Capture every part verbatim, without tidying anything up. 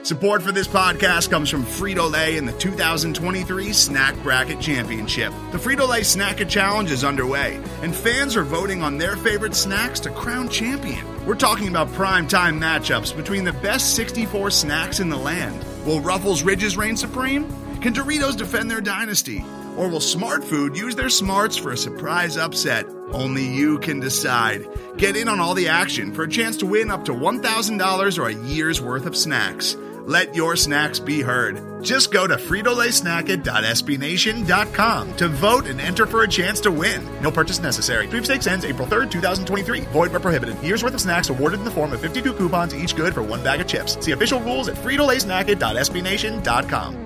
Support for this podcast comes from Frito-Lay and the two thousand twenty-three Snack Bracket Championship. The Frito-Lay Snack-A Challenge is underway, and fans are voting on their favorite snacks to crown champion. We're talking about prime-time matchups between the best sixty-four snacks in the land. Will Ruffles Ridges reign supreme? Can Doritos defend their dynasty? Or will Smart Food use their smarts for a surprise upset? Only you can decide. Get in on all the action for a chance to win up to one thousand dollars or a year's worth of snacks. Let your snacks be heard. Just go to Frito Lay Snack It dot S B Nation dot com to vote and enter for a chance to win. No purchase necessary. Sweepstakes ends April third, twenty twenty-three. Void where prohibited. Year's worth of snacks awarded in the form of fifty-two coupons, each good for one bag of chips. See official rules at Frito Lay Snack It dot S B Nation dot com.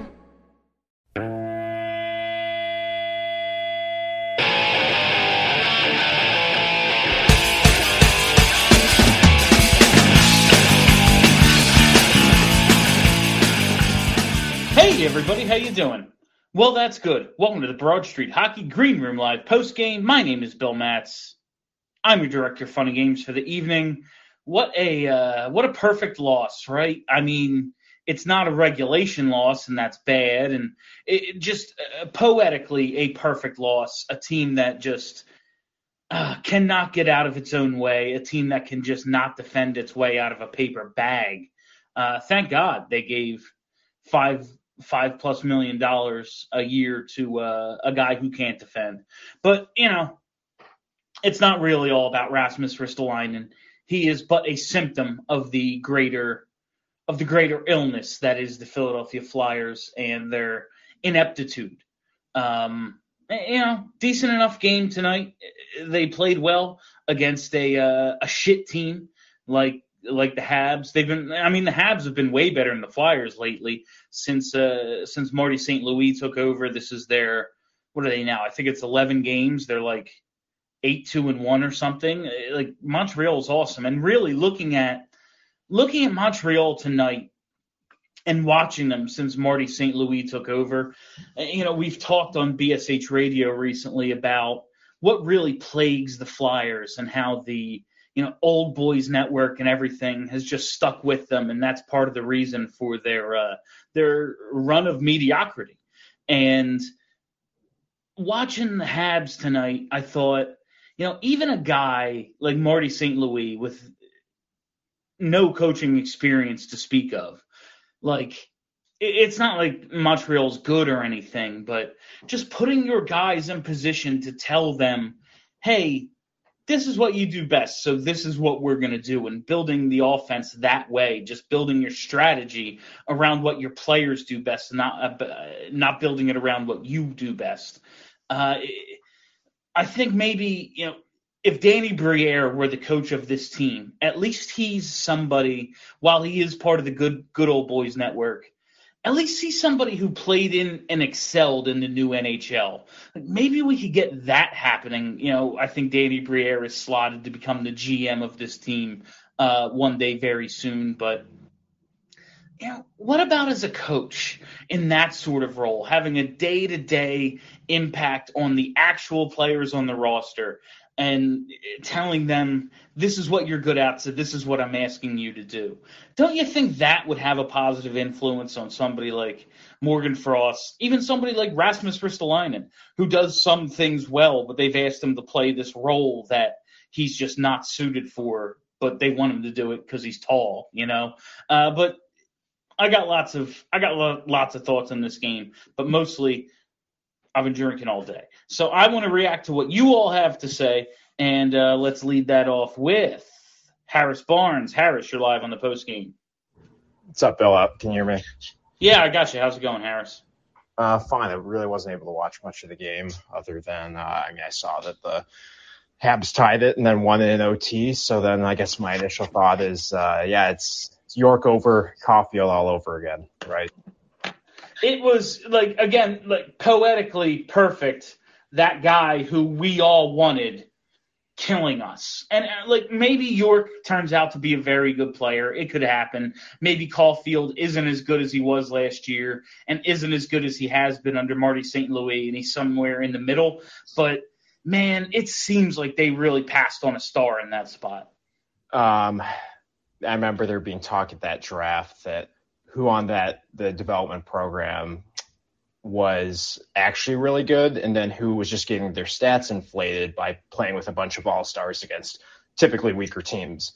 Hey everybody, how you doing? Well, that's good. Welcome to the Broad Street Hockey Green Room Live postgame. My name is Bill Matz. I'm your director of funny games for the evening. What a uh, what a perfect loss, right? I mean, it's not a regulation loss, and that's bad. And it, it just uh, poetically a perfect loss. A team that just uh, cannot get out of its own way. A team that can just not defend its way out of a paper bag. Uh, thank God they gave five. five plus million dollars a year to uh, a guy who can't defend. But, you know, it's not really all about Rasmus Ristolainen. He is but a symptom of the greater of the greater illness that is the Philadelphia Flyers and their ineptitude. Um, you know, decent enough game tonight. They played well against a uh, a shit team like like the Habs. They've been, I mean, the Habs have been way better than the Flyers lately since uh, since Marty Saint Louis took over. This is their, what are they now? I think it's eleven games. They're like eight, two, and one or something. Like, Montreal's awesome. And really looking at looking at Montreal tonight and watching them since Marty Saint Louis took over, you know, we've talked on B S H Radio recently about what really plagues the Flyers and how the you know, old boys network and everything has just stuck with them. And that's part of the reason for their, uh, their run of mediocrity. And watching the Habs tonight, I thought, you know, even a guy like Marty Saint Louis with no coaching experience to speak of, like, it's not like Montreal's good or anything, but just putting your guys in position to tell them, hey, this is what you do best, so this is what we're going to do, and building the offense that way, just building your strategy around what your players do best, not uh, not building it around what you do best. Uh, I think maybe, you know, if Danny Briere were the coach of this team, at least he's somebody, while he is part of the good good old boys network, at least he's somebody who played in and excelled in the new N H L. Like, maybe we could get that happening. You know, I think Danny Briere is slotted to become the G M of this team uh, one day very soon. But, you know, what about as a coach in that sort of role, having a day-to-day impact on the actual players on the roster and telling them, this is what you're good at, so this is what I'm asking you to do? Don't you think that would have a positive influence on somebody like Morgan Frost, even somebody like Rasmus Ristolainen, who does some things well, but they've asked him to play this role that he's just not suited for, but they want him to do it because he's tall, you know? Uh, but I got lots of I got lo- lots of thoughts on this game, but mostly I've been drinking all day. So I want to react to what you all have to say, and uh, let's lead that off with Harris Barnes. Harris, you're live on the post game. What's up, Bill? Can you hear me? Yeah, I got you. How's it going, Harris? Uh, fine. I really wasn't able to watch much of the game other than, uh, I mean, I saw that the Habs tied it and then won it in O T. So then I guess my initial thought is, uh, yeah, it's, it's York over Caulfield all over again, right? It was, like, again, like poetically perfect, that guy who we all wanted killing us. And, uh, like, maybe York turns out to be a very good player. It could happen. Maybe Caulfield isn't as good as he was last year and isn't as good as he has been under Marty Saint Louis, and he's somewhere in the middle. But, man, it seems like they really passed on a star in that spot. Um, I remember there being talk at that draft that who on that the development program was actually really good, and then who was just getting their stats inflated by playing with a bunch of all-stars against typically weaker teams.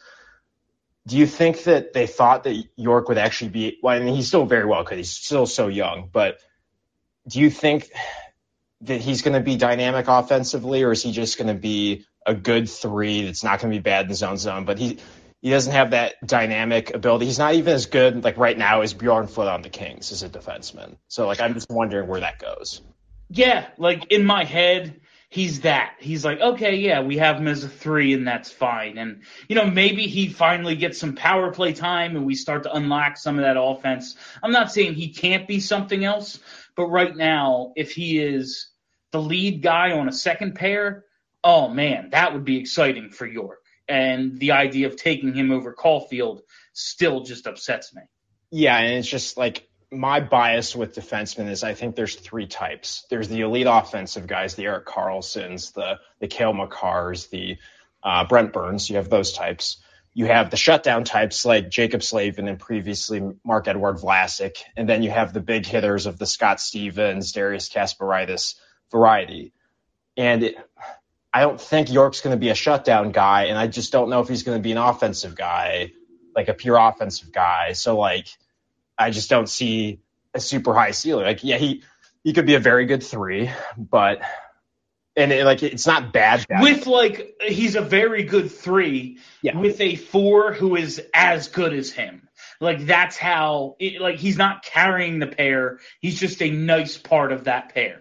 Do you think that they thought that York would actually be, well, I mean, he's still very well could, he's still so young, but do you think that he's going to be dynamic offensively, or is he just going to be a good three that's not going to be bad in the zone zone, but he he doesn't have that dynamic ability. He's not even as good, like right now, as Bjorn Foote on the Kings as a defenseman. So, like, I'm just wondering where that goes. Yeah, like, in my head, he's that. He's like, okay, yeah, we have him as a three, and that's fine. And, you know, maybe he finally gets some power play time, and we start to unlock some of that offense. I'm not saying he can't be something else, but right now, if he is the lead guy on a second pair, oh, man, that would be exciting for York. And the idea of taking him over Caulfield still just upsets me. Yeah, and it's just like my bias with defensemen is I think there's three types. There's the elite offensive guys, the Erik Karlssons, the the Cale Makars, the uh, Brent Burns. You have those types. You have the shutdown types like Jacob Slavin and previously Marc-Edouard Vlasic. And then you have the big hitters of the Scott Stevens, Darius Kasparaitis variety. And it, I don't think York's going to be a shutdown guy, and I just don't know if he's going to be an offensive guy, like a pure offensive guy. So, like, I just don't see a super high ceiling. Like, yeah, he, he could be a very good three, but and it, like it's not bad. With like he's a very good three yeah. with a four who is as good as him. Like that's how it, like he's not carrying the pair. He's just a nice part of that pair.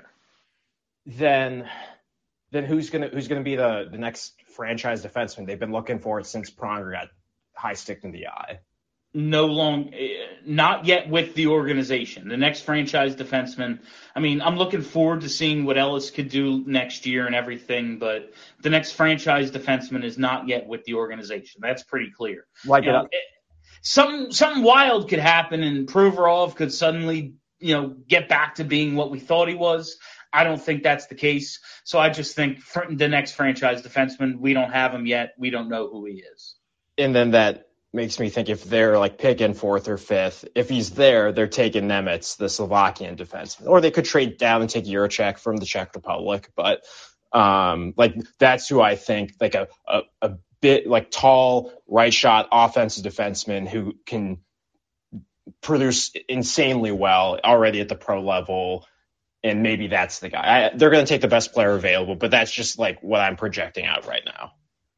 Then. Then who's gonna who's gonna be the, the next franchise defenseman? They've been looking for it since Pronger got high stick in the eye. No long, not yet with the organization. The next franchise defenseman. I mean, I'm looking forward to seeing what Ellis could do next year and everything, but the next franchise defenseman is not yet with the organization. That's pretty clear. Like you know, it, something something wild could happen, and Provorov could suddenly, you know, get back to being what we thought he was. I don't think that's the case. So I just think for the next franchise defenseman, we don't have him yet. We don't know who he is. And then that makes me think if they're like picking fourth or fifth, if he's there, they're taking Nemetz, the Slovakian defenseman. Or they could trade down and take Juracek from the Czech Republic. But um, like that's who I think like a, a, a bit like tall, right shot offensive defenseman who can produce insanely well already at the pro level. And maybe that's the guy. I, they're going to take the best player available, but that's just like what I'm projecting out right now.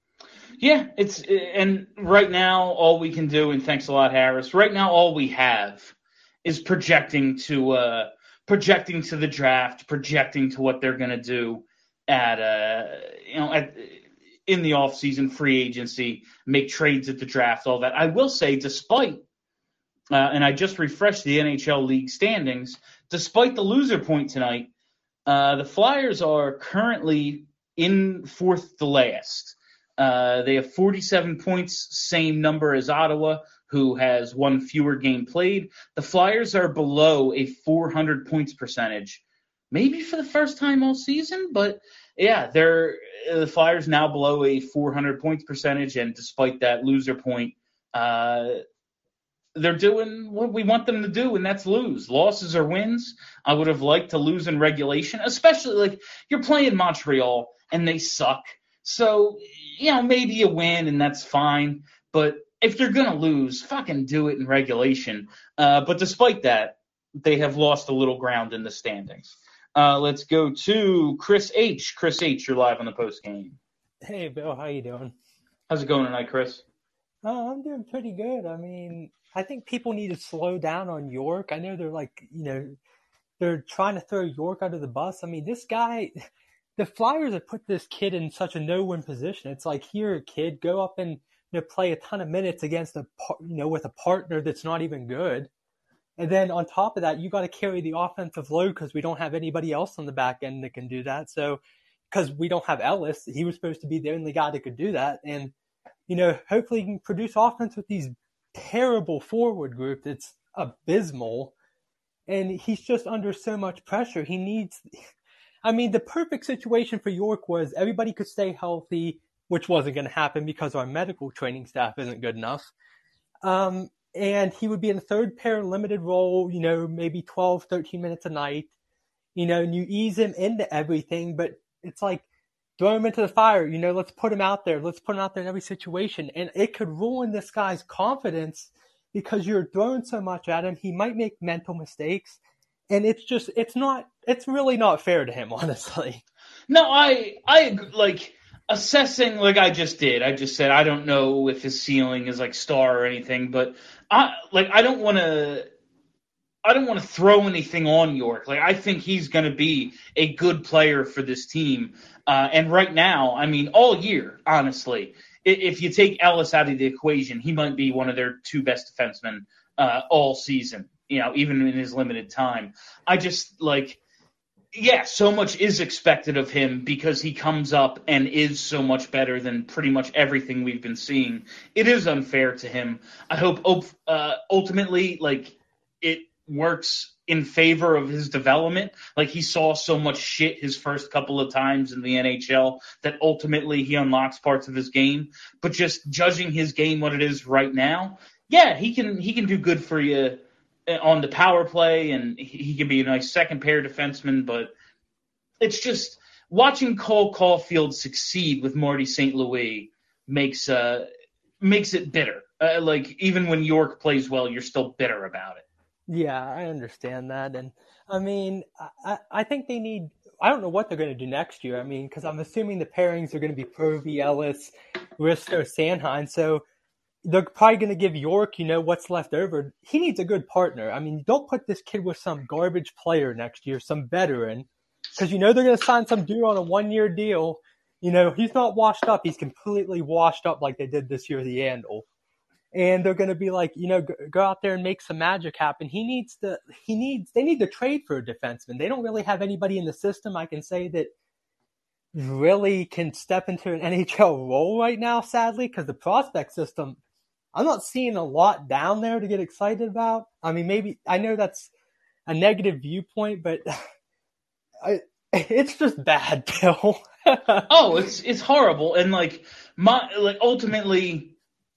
Yeah, it's and right now all we can do, and thanks a lot, Harris. Right now all we have is projecting to uh, projecting to the draft, projecting to what they're going to do at uh, you know at in the offseason, free agency, make trades at the draft, all that. I will say, despite uh, and I just refreshed the N H L league standings. Despite the loser point tonight, uh, the Flyers are currently in fourth to last. Uh, they have forty-seven points, same number as Ottawa, who has one fewer game played. The Flyers are below a four hundred points percentage, maybe for the first time all season. But, yeah, they're the Flyers now below a four hundred points percentage, and despite that loser point, uh, they're doing what we want them to do, and that's lose. Losses or wins. I would have liked to lose in regulation, especially like you're playing Montreal and they suck. So, you know, maybe you win and that's fine. But if you're going to lose, fucking do it in regulation. Uh, but despite that, they have lost a little ground in the standings. Uh, let's go to Chris H. Chris H., you're live on the post game. Hey, Bill, how you doing? How's it going tonight, Chris? Oh, I'm doing pretty good. I mean, I think people need to slow down on York. I know they're like, you know, they're trying to throw York under the bus. I mean, this guy, the Flyers have put this kid in such a no-win position. It's like, here, kid, go up and, you know, play a ton of minutes against a, you know, with a partner that's not even good. And then on top of that, you got to carry the offensive load because we don't have anybody else on the back end that can do that. So, because we don't have Ellis, he was supposed to be the only guy that could do that. And, you know, hopefully he can produce offense with these terrible forward group that's abysmal, and he's just under so much pressure. He needs, I mean, the perfect situation for York was everybody could stay healthy, which wasn't going to happen because our medical training staff isn't good enough. Um, and he would be in a third pair limited role, you know, maybe twelve, thirteen minutes a night, you know, and you ease him into everything, but it's like, throw him into the fire, you know, let's put him out there. Let's put him out there in every situation. And it could ruin this guy's confidence because you're throwing so much at him. He might make mental mistakes. And it's just, it's not, it's really not fair to him, honestly. No, I, I, like, assessing like I just did. I just said I don't know if his ceiling is like star or anything, but I, like, I don't want to, I don't want to throw anything on York. Like, I think he's going to be a good player for this team. Uh, and right now, I mean, all year, honestly, if you take Ellis out of the equation, he might be one of their two best defensemen uh, all season, you know, even in his limited time. I just, like, yeah, so much is expected of him because he comes up and is so much better than pretty much everything we've been seeing. It is unfair to him. I hope uh, ultimately, like, it works in favor of his development. Like, he saw so much shit his first couple of times in the N H L that ultimately he unlocks parts of his game. But just judging his game what it is right now, yeah, he can he can do good for you on the power play, and he can be a nice second pair defenseman. But it's just watching Cole Caulfield succeed with Marty Saint Louis makes uh makes it bitter. Uh, like, even when York plays well, you're still bitter about it. Yeah, I understand that. And I mean, I, I think they need, I don't know what they're going to do next year. I mean, because I'm assuming the pairings are going to be Provy, Ellis, Risto, Sanheim. So they're probably going to give York, you know, what's left over. He needs a good partner. I mean, don't put this kid with some garbage player next year, some veteran, because you know they're going to sign some dude on a one-year deal. You know, he's not washed up. He's completely washed up like they did this year with the Yandle. And they're going to be like, you know, go out there and make some magic happen. He needs to, he needs, they need to trade for a defenseman. They don't really have anybody in the system, I can say, that really can step into an N H L role right now, sadly, because the prospect system, I'm not seeing a lot down there to get excited about. I mean, maybe, I know that's a negative viewpoint, but I, it's just bad, Bill. Oh, it's, it's horrible. And like, my, like, ultimately,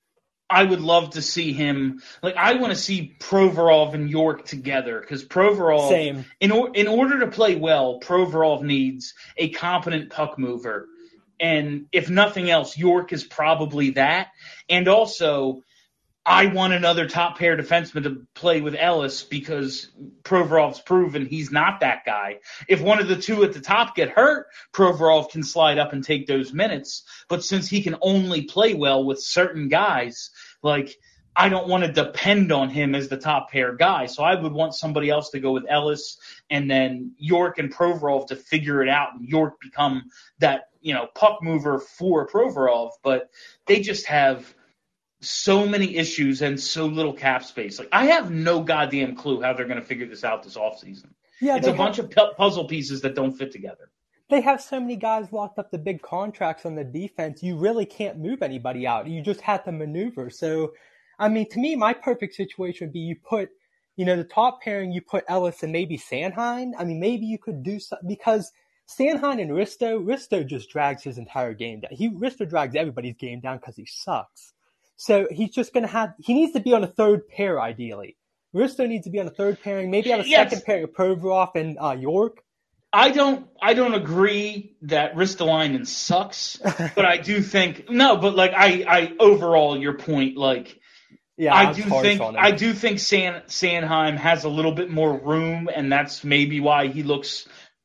I would love to see him, like, I want to see Provorov and York together, because Provorov, Same. in, or, in order to play well, Provorov needs a competent puck mover. And if nothing else, York is probably that. And also, I want another top pair defenseman to play with Ellis because Provorov's proven he's not that guy. If one of the two at the top get hurt, Provorov can slide up and take those minutes. But since he can only play well with certain guys, like, I don't want to depend on him as the top pair guy. So I would want somebody else to go with Ellis and then York and Provorov to figure it out and York become that, you know, puck mover for Provorov. But they just have so many issues and so little cap space. Like, I have no goddamn clue how they're going to figure this out this offseason. Yeah, it's a have, bunch of pu- puzzle pieces that don't fit together. They have so many guys locked up to big contracts on the defense. You really can't move anybody out. You just have to maneuver. So, I mean, to me, my perfect situation would be you put, you know, the top pairing, you put Ellis and maybe Sanheim. I mean, maybe you could do something because Sanheim and Risto, Risto just drags his entire game down. He Risto drags everybody's game down because he sucks. So he's just going to have – he needs to be on a third pair, ideally. Risto needs to be on a third pairing, maybe on a yes. second pair of Provorov and uh, York. I don't I don't agree that Ristolainen sucks, but I do think – no, but, like, I, I overall, your point, like – Yeah, I do think I do think San, Sanheim has a little bit more room, and that's maybe why he looks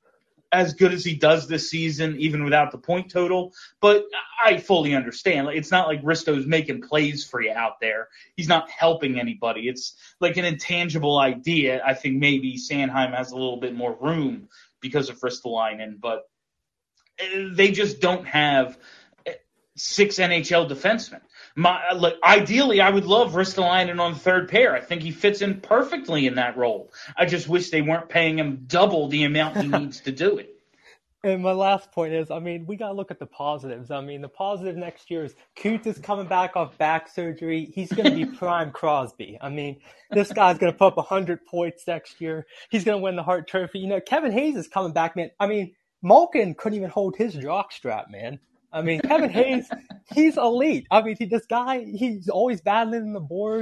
as good as he does this season, even without the point total. But I fully understand. Like, it's not like Risto's making plays for you out there. He's not helping anybody. It's like an intangible idea. I think maybe Sanheim has a little bit more room because of Ristolainen, but they just don't have six N H L defensemen. My, like, ideally, I would love Ristolainen on the third pair. I think he fits in perfectly in that role. I just wish they weren't paying him double the amount he needs to do it. And my last point is, I mean, we got to look at the positives. I mean, the positive next year is Coots is coming back off back surgery. He's going to be prime Crosby. I mean, this guy's going to put up one hundred points next year. He's going to win the Hart Trophy. You know, Kevin Hayes is coming back, man. I mean, Malkin couldn't even hold his jockstrap, man. I mean, Kevin Hayes, he's elite. I mean, he, this guy, he's always battling in the boards.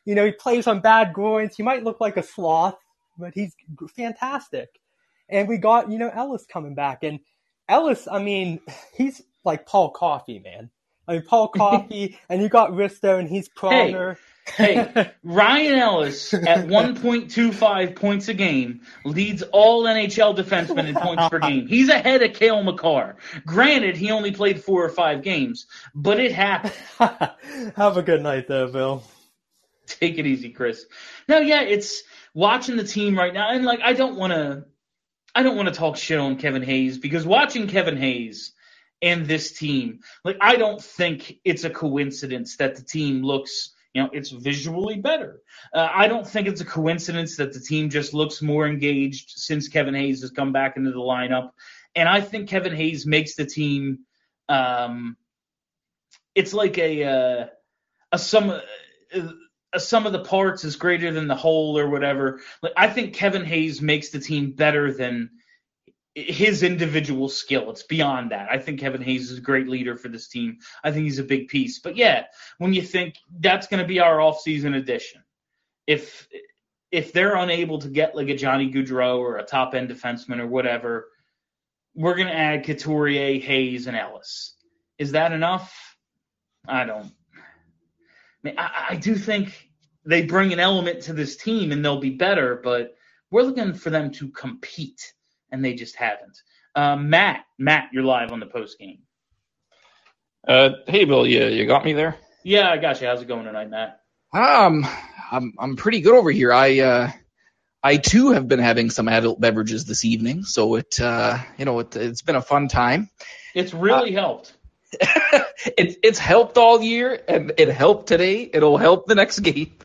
You know, he plays on bad groins. He might look like a sloth, but he's fantastic. And we got, you know, Ellis coming back. And Ellis, I mean, he's like Paul Coffey, man. I mean, Paul Coffey, and you got Risto, and he's Pronger. Hey, hey, Ryan Ellis at one point two five points a game leads all N H L defensemen in points per game. He's ahead of Cale Makar. Granted, he only played four or five games, but it happened. Have a good night, though, Bill. Take it easy, Chris. No, yeah, it's watching the team right now, and like I don't want to, I don't want to talk shit on Kevin Hayes because watching Kevin Hayes and this team, like I don't think it's a coincidence that the team looks. You know, it's visually better. Uh, I don't think it's a coincidence that the team just looks more engaged since Kevin Hayes has come back into the lineup. And I think Kevin Hayes makes the team um, – it's like a, uh, a sum a sum of the parts is greater than the whole or whatever. Like I think Kevin Hayes makes the team better than his individual skill. It's beyond that. I think Kevin Hayes is a great leader for this team. I think he's a big piece. But yeah, when you think that's going to be our offseason addition, if if they're unable to get like a Johnny Gaudreau or a top end defenseman or whatever, we're going to add Couturier, Hayes, and Ellis. Is that enough? I don't. I, mean, I, I do think they bring an element to this team and they'll be better, but we're looking for them to compete. And they just haven't. Uh, Matt, Matt, you're live on the post game. Uh, hey, Bill, you you got me there? Yeah, I got you. How's it going tonight, Matt? Um, I'm I'm pretty good over here. I uh, I too have been having some adult beverages this evening, so it uh, you know, it, it's been a fun time. It's really uh, helped. it's it's helped all year, and it helped today. It'll help the next game.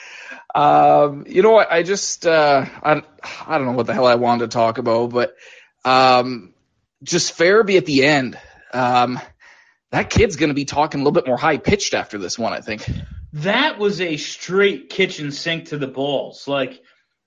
Um, you know what? I just, uh, I, I don't know what the hell I wanted to talk about, but, um, just Farabee at the end. Um, that kid's going to be talking a little bit more high pitched after this one, I think. That was a straight kitchen sink to the balls. Like,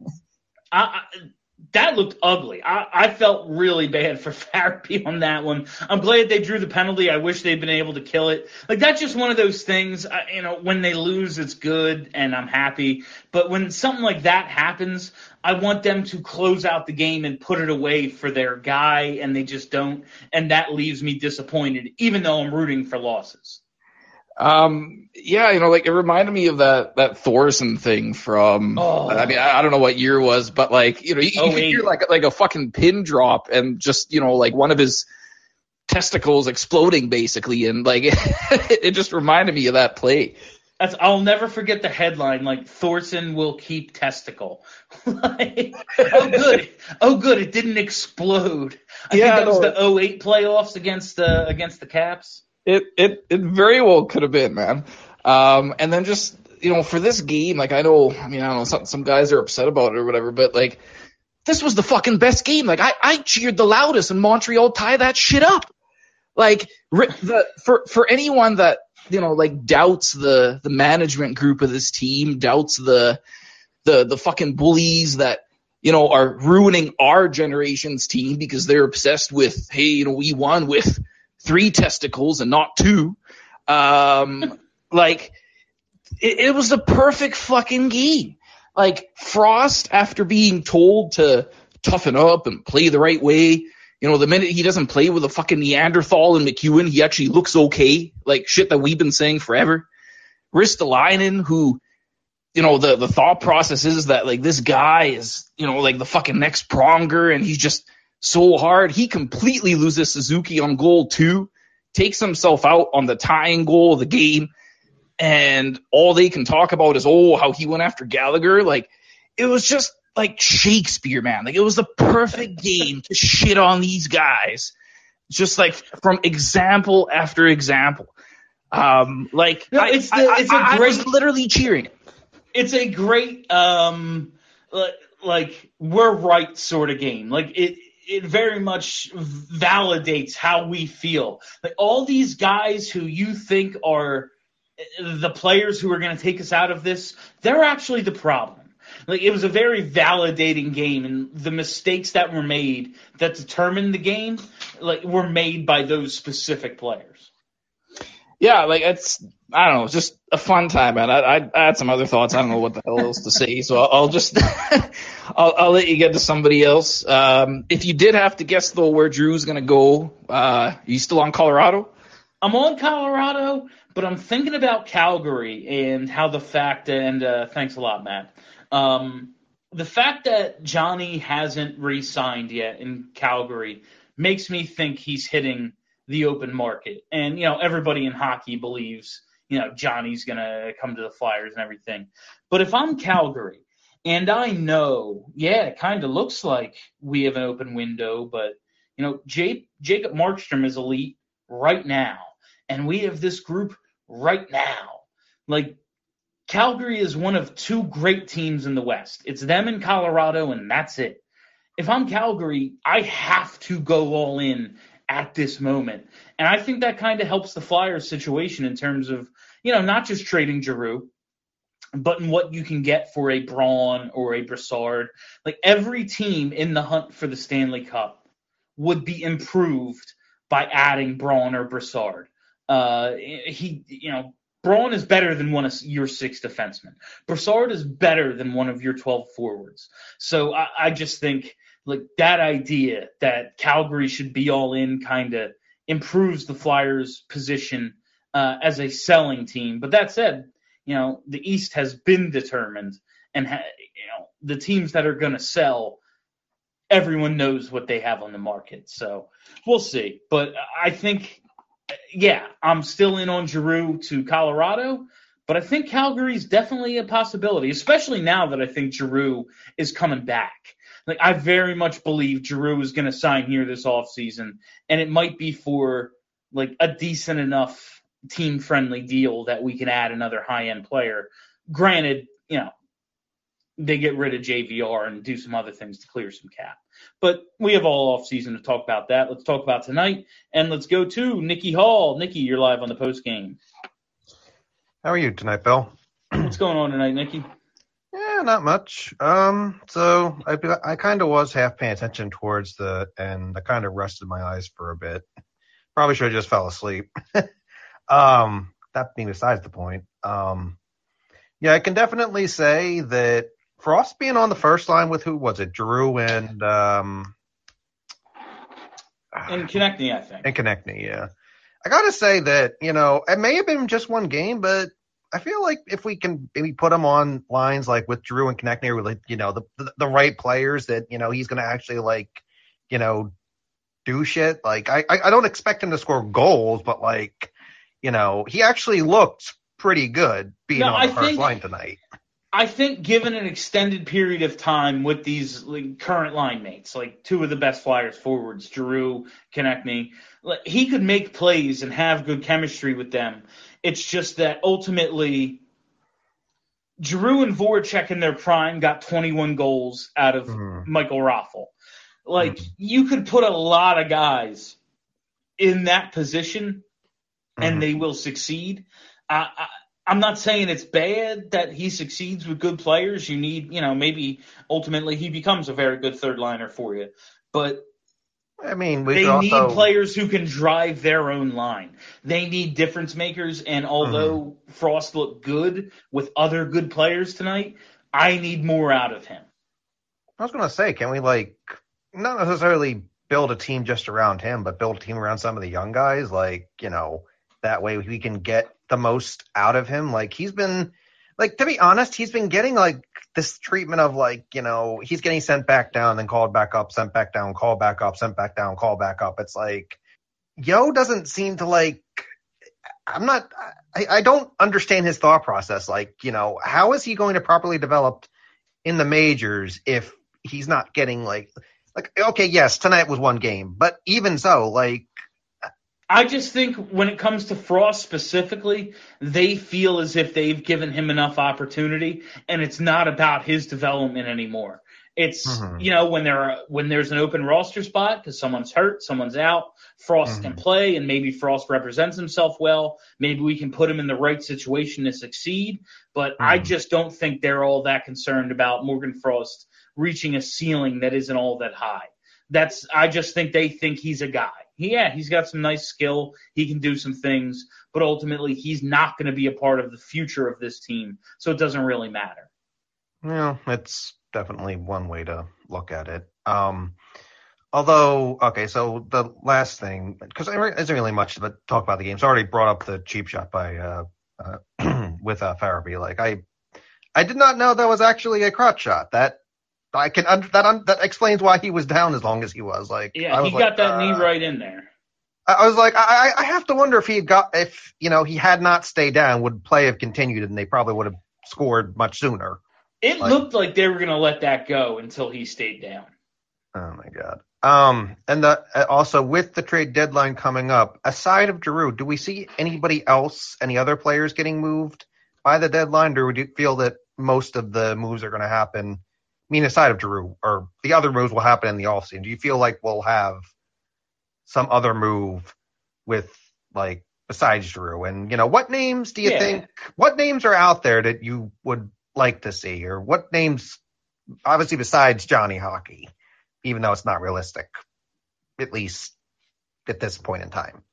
I, I that looked ugly. I, I felt really bad for Farabee on that one. I'm glad they drew the penalty. I wish they'd been able to kill it. Like, that's just one of those things, I, you know, when they lose, it's good, and I'm happy. But when something like that happens, I want them to close out the game and put it away for their guy, and they just don't. And that leaves me disappointed, even though I'm rooting for losses. Um, yeah, you know, like it reminded me of that, that Thorson thing from, oh. I mean, I, I don't know what year it was, but like, you know, you, you could hear like, like a fucking pin drop and just, you know, like one of his testicles exploding basically. And like, it, it just reminded me of that play. That's, I'll never forget the headline, like Thorson will keep testicle. Like, oh good. Oh good. It didn't explode. I yeah, think that was no. the oh eight playoffs against the, against the Caps. It, it, it very well could have been, man. Um, and then just, you know, for this game, like I know, I mean, I don't know, some, some guys are upset about it or whatever, but like, this was the fucking best game. Like I, I cheered the loudest and Montreal tie that shit up. Like the, for, for anyone that, you know, like doubts the, the management group of this team, doubts the, the, the fucking bullies that, you know, are ruining our generation's team because they're obsessed with, hey, you know, we won with three testicles and not two. Um, like, it, it was the perfect fucking game. Like, Frost, after being told to toughen up and play the right way, you know, the minute he doesn't play with a fucking Neanderthal and McEwen, he actually looks okay. Like, shit that we've been saying forever. Ristolainen, who, you know, the, the thought process is that, like, this guy is, you know, like the fucking next Pronger, and he's just so hard. He completely loses Suzuki on goal two, takes himself out on the tying goal of the game, and all they can talk about is, oh, how he went after Gallagher. Like, it was just like Shakespeare, man. Like, it was the perfect game to shit on these guys, just like from example after example. Um, like, no, it's the, I, it's I, a I, great, I was literally cheering it. It's a great, um, like, like we're right sort of game. Like, it, it very much validates how we feel. Like, all these guys who you think are the players who are going to take us out of this, they're actually the problem. Like, it was a very validating game, and the mistakes that were made that determined the game, like, were made by those specific players. Yeah, like it's I don't know, it's just a fun time, man. I, I, I had some other thoughts. I don't know what the hell else to say, so I'll, I'll just I'll, I'll let you get to somebody else. Um, if you did have to guess though where Drew's gonna go, uh, are you still on Colorado? I'm on Colorado, but I'm thinking about Calgary and how the fact and uh, thanks a lot, Matt. Um, the fact that Johnny hasn't re-signed yet in Calgary makes me think he's hitting the open market. And, you know, everybody in hockey believes, you know, Johnny's going to come to the Flyers and everything. But if I'm Calgary and I know, yeah, it kind of looks like we have an open window, but, you know, J- Jacob Markstrom is elite right now. And we have this group right now. Like, Calgary is one of two great teams in the West. It's them in Colorado, and that's it. If I'm Calgary, I have to go all in at this moment. And I think that kind of helps the Flyers situation in terms of, you know, not just trading Giroux, but in what you can get for a Braun or a Brassard. Like, every team in the hunt for the Stanley Cup would be improved by adding Braun or Brassard. Uh, he, you know, Braun is better than one of your six defensemen. Brassard is better than one of your twelve forwards. So I, I just think like that idea that Calgary should be all in kind of improves the Flyers' position uh, as a selling team. But that said, you know, the East has been determined, and ha- you know the teams that are going to sell, everyone knows what they have on the market. So we'll see. But I think. Yeah, I'm still in on Giroux to Colorado, but I think Calgary is definitely a possibility, especially now that I think Giroux is coming back. Like, I very much believe Giroux is going to sign here this offseason, and it might be for like a decent enough team-friendly deal that we can add another high-end player. Granted, you know, they get rid of J V R and do some other things to clear some cap. But we have all off season to talk about that. Let's talk about tonight, and let's go to Nikki Hall. Nikki, you're live on the post game. How are you tonight, Bill? What's going on tonight, Nikki? Yeah, not much. Um, so I I kind of was half paying attention towards the end. I kind of rested my eyes for a bit. Probably should have just fell asleep. um, that being besides the point. Um, yeah, I can definitely say that. Frost being on the first line with who was it? Giroux and um and Konechny, I think. And Konechny, yeah. I gotta say that, you know, it may have been just one game, but I feel like if we can maybe put him on lines like with Giroux and Konechny, or like, you know, the, the the right players that, you know, he's gonna actually like, you know, do shit. Like I I don't expect him to score goals, but like, you know, he actually looked pretty good being no, on the I first think- line tonight. I think given an extended period of time with these like, current line mates, like two of the best Flyers forwards, Giroux, Konechny, like, he could make plays and have good chemistry with them. It's just that ultimately Giroux and Voracek in their prime got twenty-one goals out of Mm-hmm. Michael Raffl. Like, Mm-hmm. you could put a lot of guys in that position and Mhm. they will succeed. I, I I'm not saying it's bad that he succeeds with good players. You need, you know, maybe ultimately he becomes a very good third liner for you. But I mean, we they could also, need players who can drive their own line. They need difference makers. And although Mm-hmm. Frost looked good with other good players tonight, I need more out of him. I was going to say, can we, like, not necessarily build a team just around him, but build a team around some of the young guys? Like, you know, that way we can get the most out of him. Like, he's been, like, to be honest, he's been getting, like, this treatment of, like, you know, he's getting sent back down, then called back up, sent back down, called back up, sent back down, called back up. It's like, Yo doesn't seem to, like, I'm not, I, I don't understand his thought process. Like, you know, how is he going to properly develop in the majors if he's not getting, like, like, okay, yes, tonight was one game, but even so, like, I just think when it comes to Frost specifically, they feel as if they've given him enough opportunity, and it's not about his development anymore. It's, Mhm. you know, when there are, when there's an open roster spot because someone's hurt, someone's out, Frost Mhm. can play, and maybe Frost represents himself well. Maybe we can put him in the right situation to succeed. But I Mhm. just don't think they're all that concerned about Morgan Frost reaching a ceiling that isn't all that high. That's, I just think they think he's a guy. yeah, he's got some nice skill. He can do some things, but ultimately he's not going to be a part of the future of this team, so it doesn't really matter. Yeah, it's definitely one way to look at it. Um, although, okay, so the last thing, because there isn't really much to talk about the game. So I already brought up the cheap shot by uh, uh, with uh, Farabee. Like I, I did not know that was actually a crotch shot. That I can under, that un, that explains why he was down as long as he was. Like yeah, I was he got like, that uh, knee right in there. I, I was like, I, I have to wonder if he had got if you know he had not stayed down, would play have continued, and they probably would have scored much sooner. It like, looked like they were going to let that go until he stayed down. Oh my god. Um, and the, also with the trade deadline coming up, aside of Giroux, do we see anybody else, any other players getting moved by the deadline, or would you feel that most of the moves are going to happen? I mean, aside of Giroux, or the other moves will happen in the offseason. Do you feel like we'll have some other move with, like, besides Giroux? And, you know, what names do you yeah. think, what names are out there that you would like to see? Or what names, obviously besides Johnny Hockey, even though it's not realistic, at least at this point in time?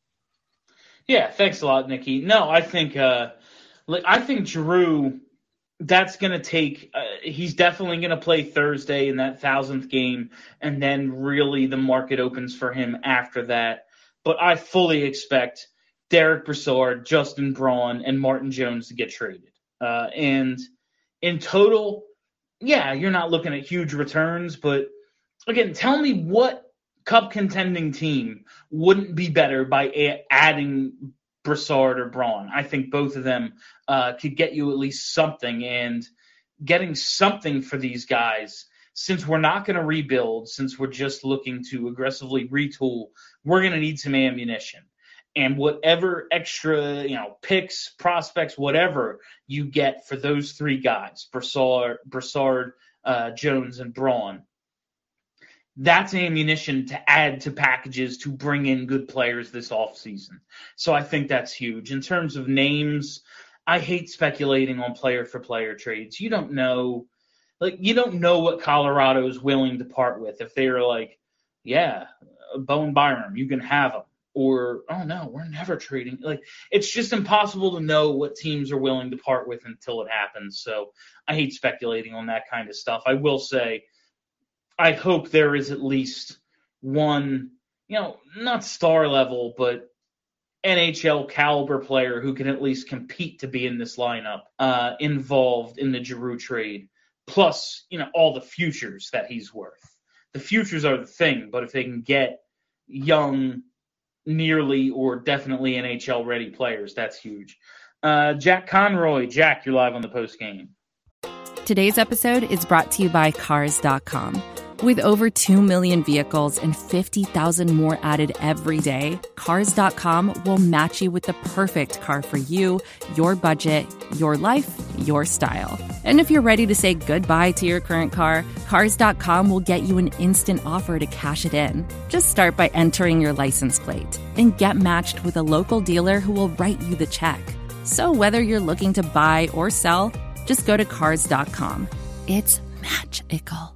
Yeah, thanks a lot, Nikki. No, I think, uh, like, I think Giroux, that's going to take uh, – he's definitely going to play Thursday in that thousandth game, and then really the market opens for him after that. But I fully expect Derek Brassard, Justin Braun, and Martin Jones to get traded. Uh, and in total, yeah, you're not looking at huge returns. But, again, tell me what cup contending team wouldn't be better by a- adding – Brassard or Braun. I think both of them uh, could get you at least something, and getting something for these guys, since we're not going to rebuild, since we're just looking to aggressively retool, we're going to need some ammunition. And whatever extra, you know, picks, prospects, whatever you get for those three guys, Brassard, Brassard uh, Jones, and Braun, that's ammunition to add to packages to bring in good players this offseason. So I think that's huge. In terms of names, I hate speculating on player-for-player trades. You don't know, like, you don't know what Colorado's willing to part with. If they're like, yeah, Bowen Byram, you can have him. Or, oh, no, we're never trading. Like, it's just impossible to know what teams are willing to part with until it happens. So I hate speculating on that kind of stuff. I will say, I hope there is at least one, you know, not star level, but N H L caliber player who can at least compete to be in this lineup uh, involved in the Giroux trade. Plus, you know, all the futures that he's worth. The futures are the thing, but if they can get young, nearly or definitely N H L ready players, that's huge. Uh, Jack Conroy. Jack, you're live on the post game. Today's episode is brought to you by Cars dot com. With over two million vehicles and fifty thousand more added every day, Cars dot com will match you with the perfect car for you, your budget, your life, your style. And if you're ready to say goodbye to your current car, Cars dot com will get you an instant offer to cash it in. Just start by entering your license plate and get matched with a local dealer who will write you the check. So whether you're looking to buy or sell, just go to Cars dot com. It's magical.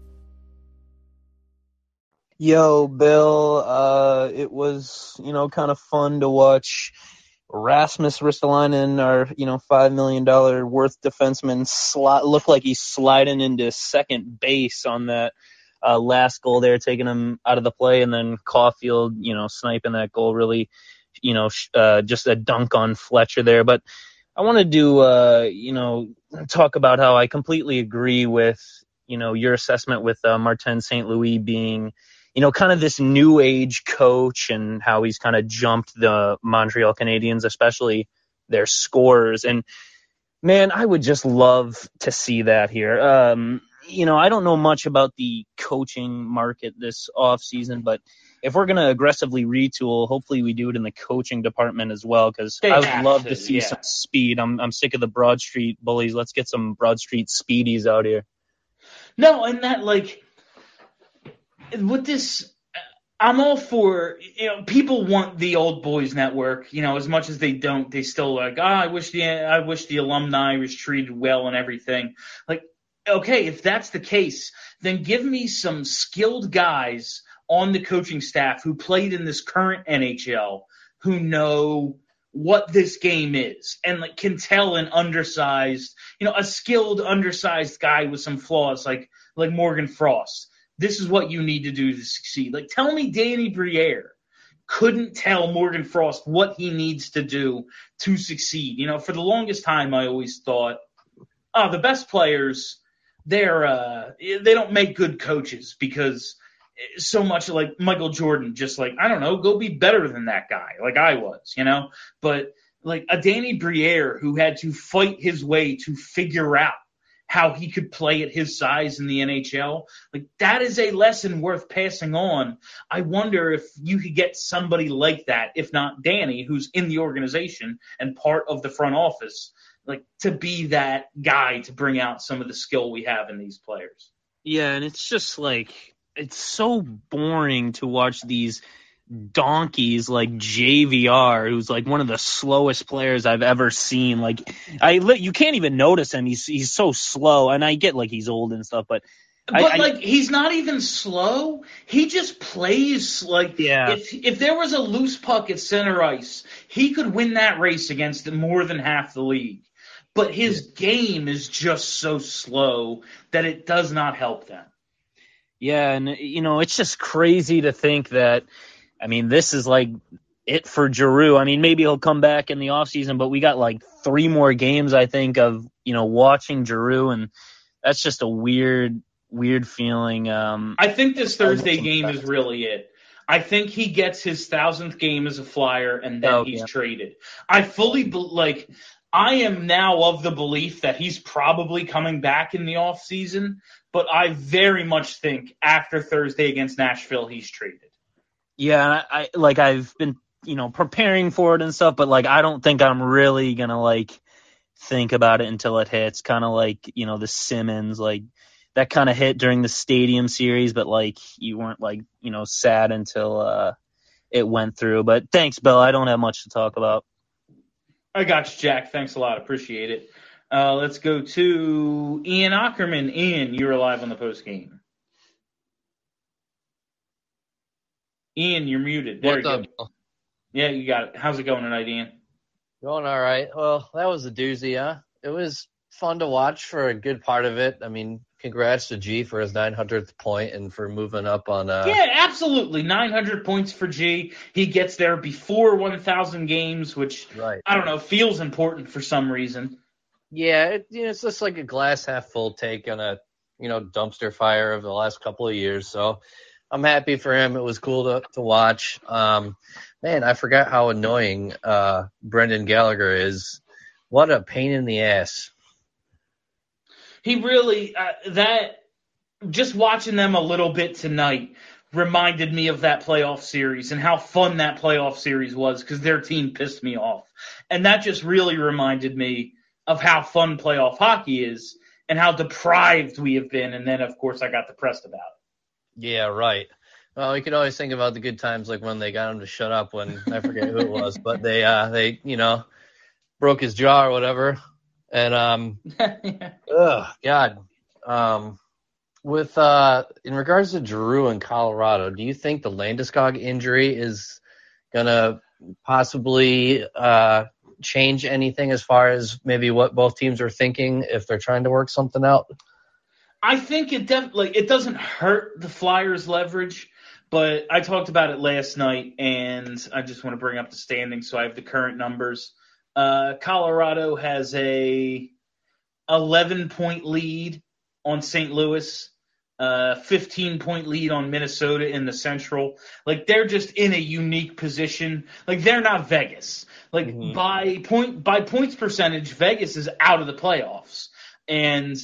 Yo, Bill, uh, it was, you know, kind of fun to watch Rasmus Ristolainen, our, you know, five million dollars worth defenseman, sli- look like he's sliding into second base on that uh, last goal there, taking him out of the play, and then Caulfield, you know, sniping that goal, really, you know, sh- uh, just a dunk on Fletcher there. But I wanted to, uh, you know, talk about how I completely agree with, you know, your assessment with uh, Martin Saint Louis being, you know, kind of this new age coach, and how he's kind of jumped the Montreal Canadiens, especially their scorers. And man, I would just love to see that here. Um, you know, I don't know much about the coaching market this off season, but if we're going to aggressively retool, hopefully we do it in the coaching department as well, because I would love to, to see yeah. some speed. I'm I'm sick of the Broad Street bullies. Let's get some Broad Street speedies out here. No, and that, like, with this, I'm all for, you know, people want the old boys network, you know, as much as they don't, they still like, ah, oh, I wish the, I wish the alumni was treated well and everything. Like, okay, if that's the case, then give me some skilled guys on the coaching staff who played in this current N H L who know what this game is and like can tell an undersized, you know, a skilled undersized guy with some flaws like like Morgan Frost, this is what you need to do to succeed. Like, tell me Danny Briere couldn't tell Morgan Frost what he needs to do to succeed. You know, for the longest time, I always thought, oh, the best players, they're uh, they don't make good coaches because so much like Michael Jordan, just like, I don't know, go be better than that guy, like I was, you know. But like a Danny Briere who had to fight his way to figure out how he could play at his size in the N H L, like that is a lesson worth passing on. I wonder if you could get somebody like that, if not Danny, who's in the organization and part of the front office, like to be that guy to bring out some of the skill we have in these players. Yeah, and it's just like, it's so boring to watch these donkeys like J V R, who's like one of the slowest players I've ever seen. Like, I you can't even notice him. He's he's so slow, and I get like he's old and stuff, but but I, like I, he's not even slow. He just plays like yeah. if if there was a loose puck at center ice, he could win that race against more than half the league. But his yeah. game is just so slow that it does not help them. Yeah, and you know, it's just crazy to think that, I mean, this is like it for Giroux. I mean, maybe he'll come back in the offseason, but we got like three more games, I think, of, you know, watching Giroux, and that's just a weird, weird feeling. Um, I think this Thursday game is really it. I think he gets his thousandth game as a Flyer, and then oh, he's yeah. traded. I fully, be- like, I am now of the belief that he's probably coming back in the offseason, but I very much think after Thursday against Nashville, he's traded. Yeah, I like I've been, you know, preparing for it and stuff, but like I don't think I'm really gonna like think about it until it hits. Kind of like, you know, the Simmons, like that kind of hit during the Stadium Series, but like you weren't like, you know, sad until uh, it went through. But thanks, Bill. I don't have much to talk about. I got you, Jack. Thanks a lot. Appreciate it. Uh, let's go to Ian Ackerman. Ian, you're live on the post game. Ian, you're muted. There What's you up? go. Yeah, you got it. How's it going tonight, Ian? Going all right. Well, that was a doozy, huh? It was fun to watch for a good part of it. I mean, congrats to G for his nine hundredth point and for moving up on. Uh... Yeah, absolutely. nine hundred points for G. He gets there before one thousand games, which, right. I don't know, feels important for some reason. Yeah, it, you know, it's just like a glass half full take on a, you know, dumpster fire of the last couple of years. So I'm happy for him. It was cool to, to watch. Um, man, I forgot how annoying uh, Brendan Gallagher is. What a pain in the ass. He really, uh, that, just watching them a little bit tonight reminded me of that playoff series and how fun that playoff series was because their team pissed me off. And that just really reminded me of how fun playoff hockey is and how deprived we have been. And then, of course, I got depressed about it. Yeah, right. Well, you can always think about the good times, like when they got him to shut up when I forget who it was, but they, uh, they, you know, broke his jaw or whatever. And, um, yeah. ugh, God, um, with, uh, in regards to Giroux in Colorado, do you think the Landeskog injury is going to possibly, uh, change anything as far as maybe what both teams are thinking if they're trying to work something out? I think it definitely, like, it doesn't hurt the Flyers' leverage, but I talked about it last night, and I just want to bring up the standings so I have the current numbers. Uh, Colorado has a eleven-point lead on Saint Louis, uh, fifteen-point lead on Minnesota in the Central. Like, they're just in a unique position. Like, they're not Vegas. Like, mm-hmm. by point by points percentage, Vegas is out of the playoffs. And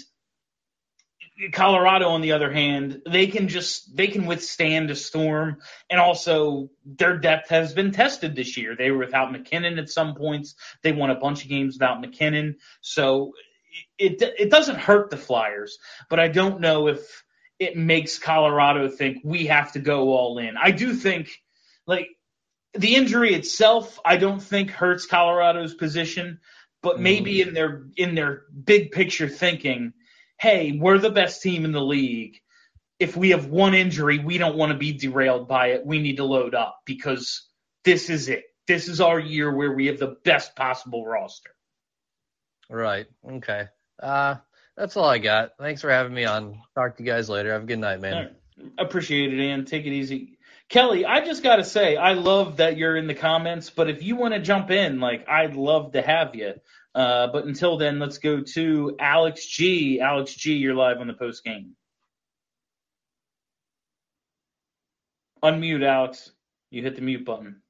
Colorado, on the other hand, they can just they can withstand a storm, and also their depth has been tested this year. They were without McKinnon at some points. They won a bunch of games without McKinnon, so it it doesn't hurt the Flyers. But I don't know if it makes Colorado think we have to go all in. I do think, like, the injury itself, I don't think hurts Colorado's position, but maybe in their in their big picture thinking, hey, we're the best team in the league. if we have one injury, we don't want to be derailed by it. We need to load up because this is it. This is our year where we have the best possible roster. Right. Okay. Uh, that's all I got. Thanks for having me on. Talk to you guys later. Have a good night, man. Right. Appreciate it, Ian. Take it easy. Kelly, I just got to say, I love that you're in the comments, but if you want to jump in, like, I'd love to have you. Uh, but until then, let's go to Alex G. Alex G, you're live on the post game. Unmute, Alex. You hit the mute button.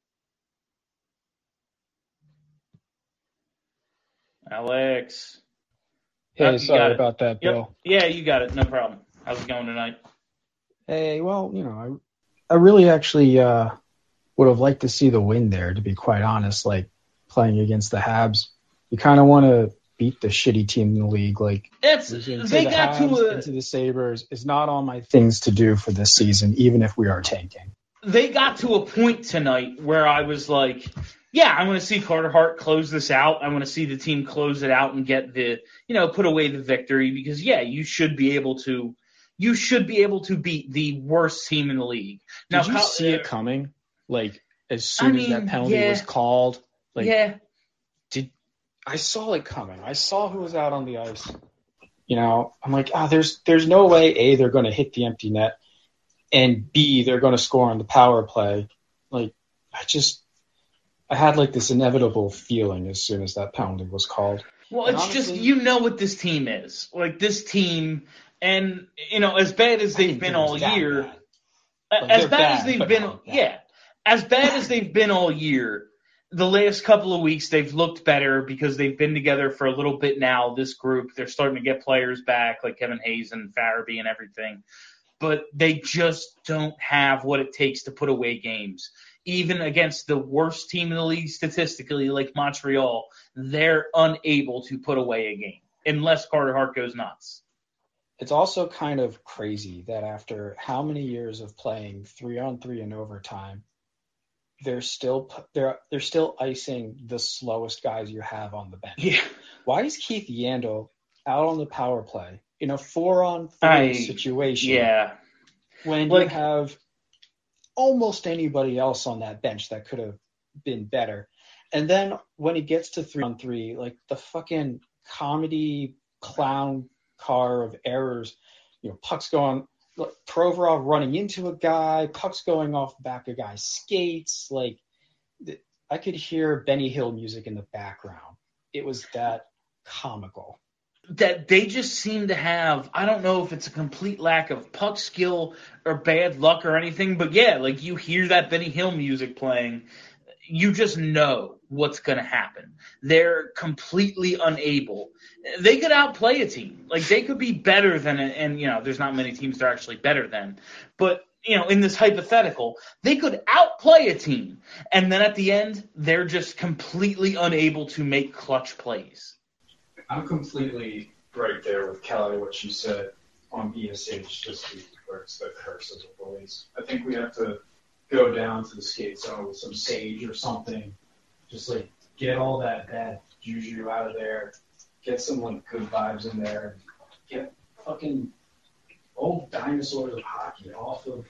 Alex. Hey, Oh, you sorry got it. about that, Yep. Bill. Yeah, you got it. No problem. How's it going tonight? Hey, well, you know, I, I really actually uh, would have liked to see the win there, to be quite honest, like playing against the Habs. You kind of want to beat the shitty team in the league. Like, It's, into they the got Habs, to a, into the Sabres is not on my things to do for this season, even if we are tanking. they got to a point tonight where I was like, yeah, I want to see Carter Hart close this out. I want to see the team close it out and get the, you know, put away the victory because, yeah, you should be able to, you should be able to beat the worst team in the league. Now, Did you Kyle- see it coming? Like, as soon I as mean, that penalty yeah. was called? Like, yeah, did I saw it coming. I saw who was out on the ice. You know, I'm like, ah, there's there's no way, A, they're going to hit the empty net, and B, they're going to score on the power play. Like, I just, I had like this inevitable feeling as soon as that penalty was called. well, And it's honestly, just, you know what this team is. Like, this team, and, you know, as bad as I they've didn't been think it was all that year, bad. a- Like, as they're bad, as bad, they've but been, not bad. yeah, as bad as they've been all year, the last couple of weeks they've looked better because they've been together for a little bit now, this group. They're starting to get players back like Kevin Hayes and Farabee and everything. But they just don't have what it takes to put away games. Even against the worst team in the league statistically, like Montreal, they're unable to put away a game unless Carter Hart goes nuts. It's also kind of crazy that after how many years of playing three on three in overtime, they're still they're they're still icing the slowest guys you have on the bench. Yeah. Why is Keith Yandel out on the power play in a four on I- three situation Yeah. when Like- you have almost anybody else on that bench that could have been better? And then when he gets to three on three, like the fucking comedy clown car of errors, you know, pucks going, like, Provorov running into a guy, pucks going off the back of a guy's skates. Like, th- I could hear Benny Hill music in the background. It was that comical. That they just seem to have, I don't know if it's a complete lack of puck skill or bad luck or anything, but yeah, like you hear that Benny Hill music playing, you just know what's going to happen. They're completely unable. They could outplay a team. Like, they could be better than, a, and, you know, there's not many teams that are actually better than. But, you know, in this hypothetical, they could outplay a team. And then at the end, they're just completely unable to make clutch plays. I'm completely right there with Kelly, what she said on B S H this week, where it's the curse of the bullies. I think we have to go down to the skate zone with some sage or something, just like get all that bad juju out of there, get some like good vibes in there, get fucking old dinosaurs of hockey off of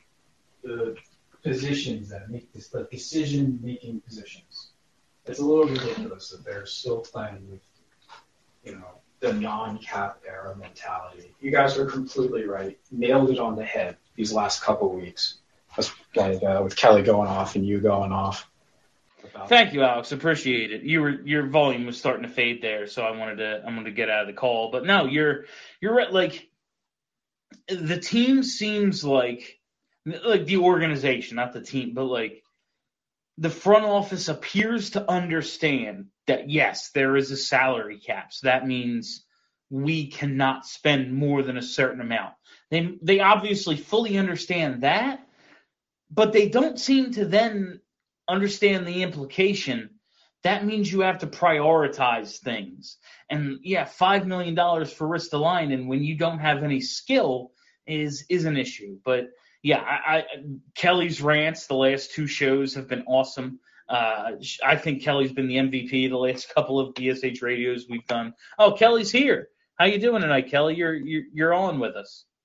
the positions that make this, the decision-making positions. It's a little ridiculous that they're still playing with, you know, the non-cap era mentality. You guys are completely right. Nailed it on the head these last couple weeks. That's like, uh, with Kelly going off and you going off. About Thank you, Alex. Appreciate it. You were your volume was starting to fade there, so I wanted to I wanted to get out of the call. But no, you're you're right. Like, the team seems like like the organization, not the team, but like the front office appears to understand that yes, there is a salary cap. So that means we cannot spend more than a certain amount. They they obviously fully understand that. But they don't seem to then understand the implication. That means you have to prioritize things. And, yeah, five million dollars for Ristolainen when you don't have any skill is is an issue. But, yeah, I, I, Kelly's rants the last two shows have been awesome. Uh, I think Kelly's been the M V P the last couple of B S H radios we've done. Oh, Kelly's here. How you doing tonight, Kelly? You're, you're, you're on with us.